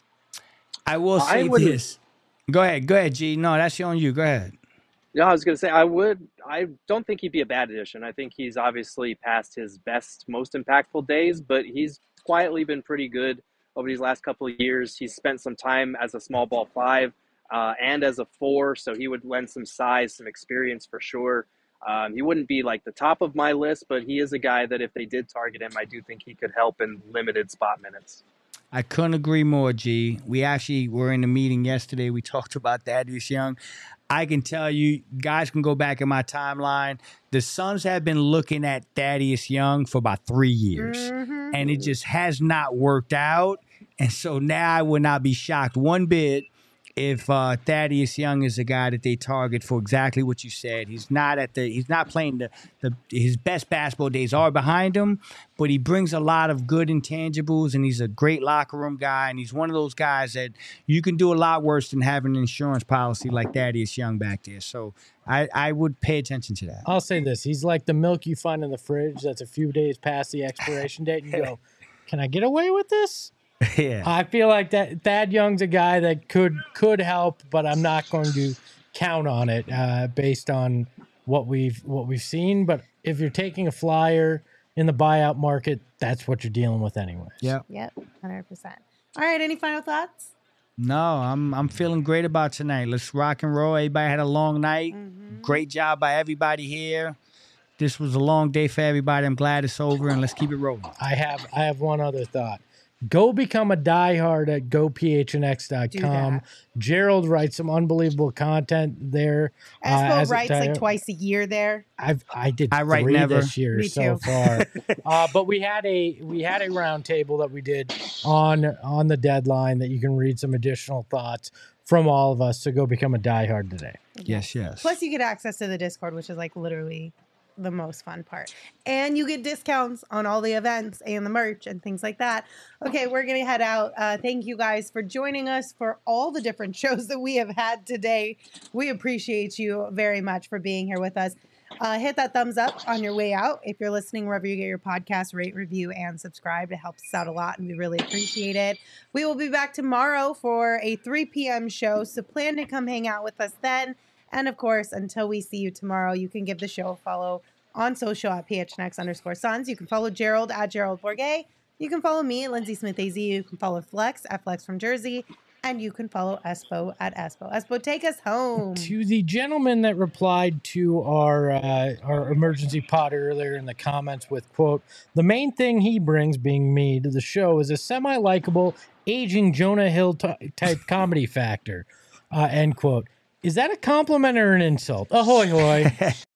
I will say this. Go ahead, G. No, that's on you. Go ahead. Yeah, I was going to say, I don't think he'd be a bad addition. I think he's obviously past his best, most impactful days, but he's quietly been pretty good over these last couple of years. He's spent some time as a small ball 5 and as a 4, so he would lend some size, some experience for sure. He wouldn't be like the top of my list, but he is a guy that if they did target him, I do think he could help in limited spot minutes. I couldn't agree more, G. We actually were in a meeting yesterday. We talked about Thaddeus Young. I can tell you, guys can go back in my timeline. The Suns have been looking at Thaddeus Young for about 3 years, and it just has not worked out. And so now I would not be shocked one bit if Thaddeus Young is a guy that they target for exactly what you said. He's not playing his best basketball days are behind him, but he brings a lot of good intangibles, and he's a great locker room guy, and he's one of those guys that you can do a lot worse than having an insurance policy like Thaddeus Young back there. So I would pay attention to that. I'll say this. He's like the milk you find in the fridge that's a few days past the expiration date, and you go, can I get away with this? Yeah, I feel like that Thad Young's a guy that could help, but I'm not going to count on it based on what we've seen. But if you're taking a flyer in the buyout market, that's what you're dealing with anyways. Yep, 100%. All right, any final thoughts? No, I'm feeling great about tonight. Let's rock and roll. Everybody had a long night. Great job by everybody here. This was a long day for everybody. I'm glad it's over, and let's keep it rolling. I have one other thought. Go become a diehard at gophnx.com. Gerald writes some unbelievable content there. Espo writes like twice a year there. I write 3 this year so far. But we had a round table that we did on the deadline that you can read some additional thoughts from all of us. So go become a diehard today. Yes. Plus you get access to the Discord, which is like literally the most fun part. And you get discounts on all the events and the merch and things like that. Okay, we're going to head out. Thank you guys for joining us for all the different shows that we have had today. We appreciate you very much for being here with us. Hit that thumbs up on your way out. If you're listening wherever you get your podcast, rate, review, and subscribe. It helps us out a lot, and we really appreciate it. We will be back tomorrow for a 3 p.m. show, so plan to come hang out with us then. And of course, until we see you tomorrow, you can give the show a follow on social at PHNX_Suns. You can follow Gerald at Gerald Bourget. You can follow me at Lindsay Smith AZ. You can follow Flex at Flex from Jersey. And you can follow Espo at Espo. Espo, take us home. To the gentleman that replied to our emergency pod earlier in the comments with, quote, the main thing he brings, being me, to the show is a semi-likable, aging Jonah Hill type comedy factor, end quote. Is that a compliment or an insult? Ahoy, hoy.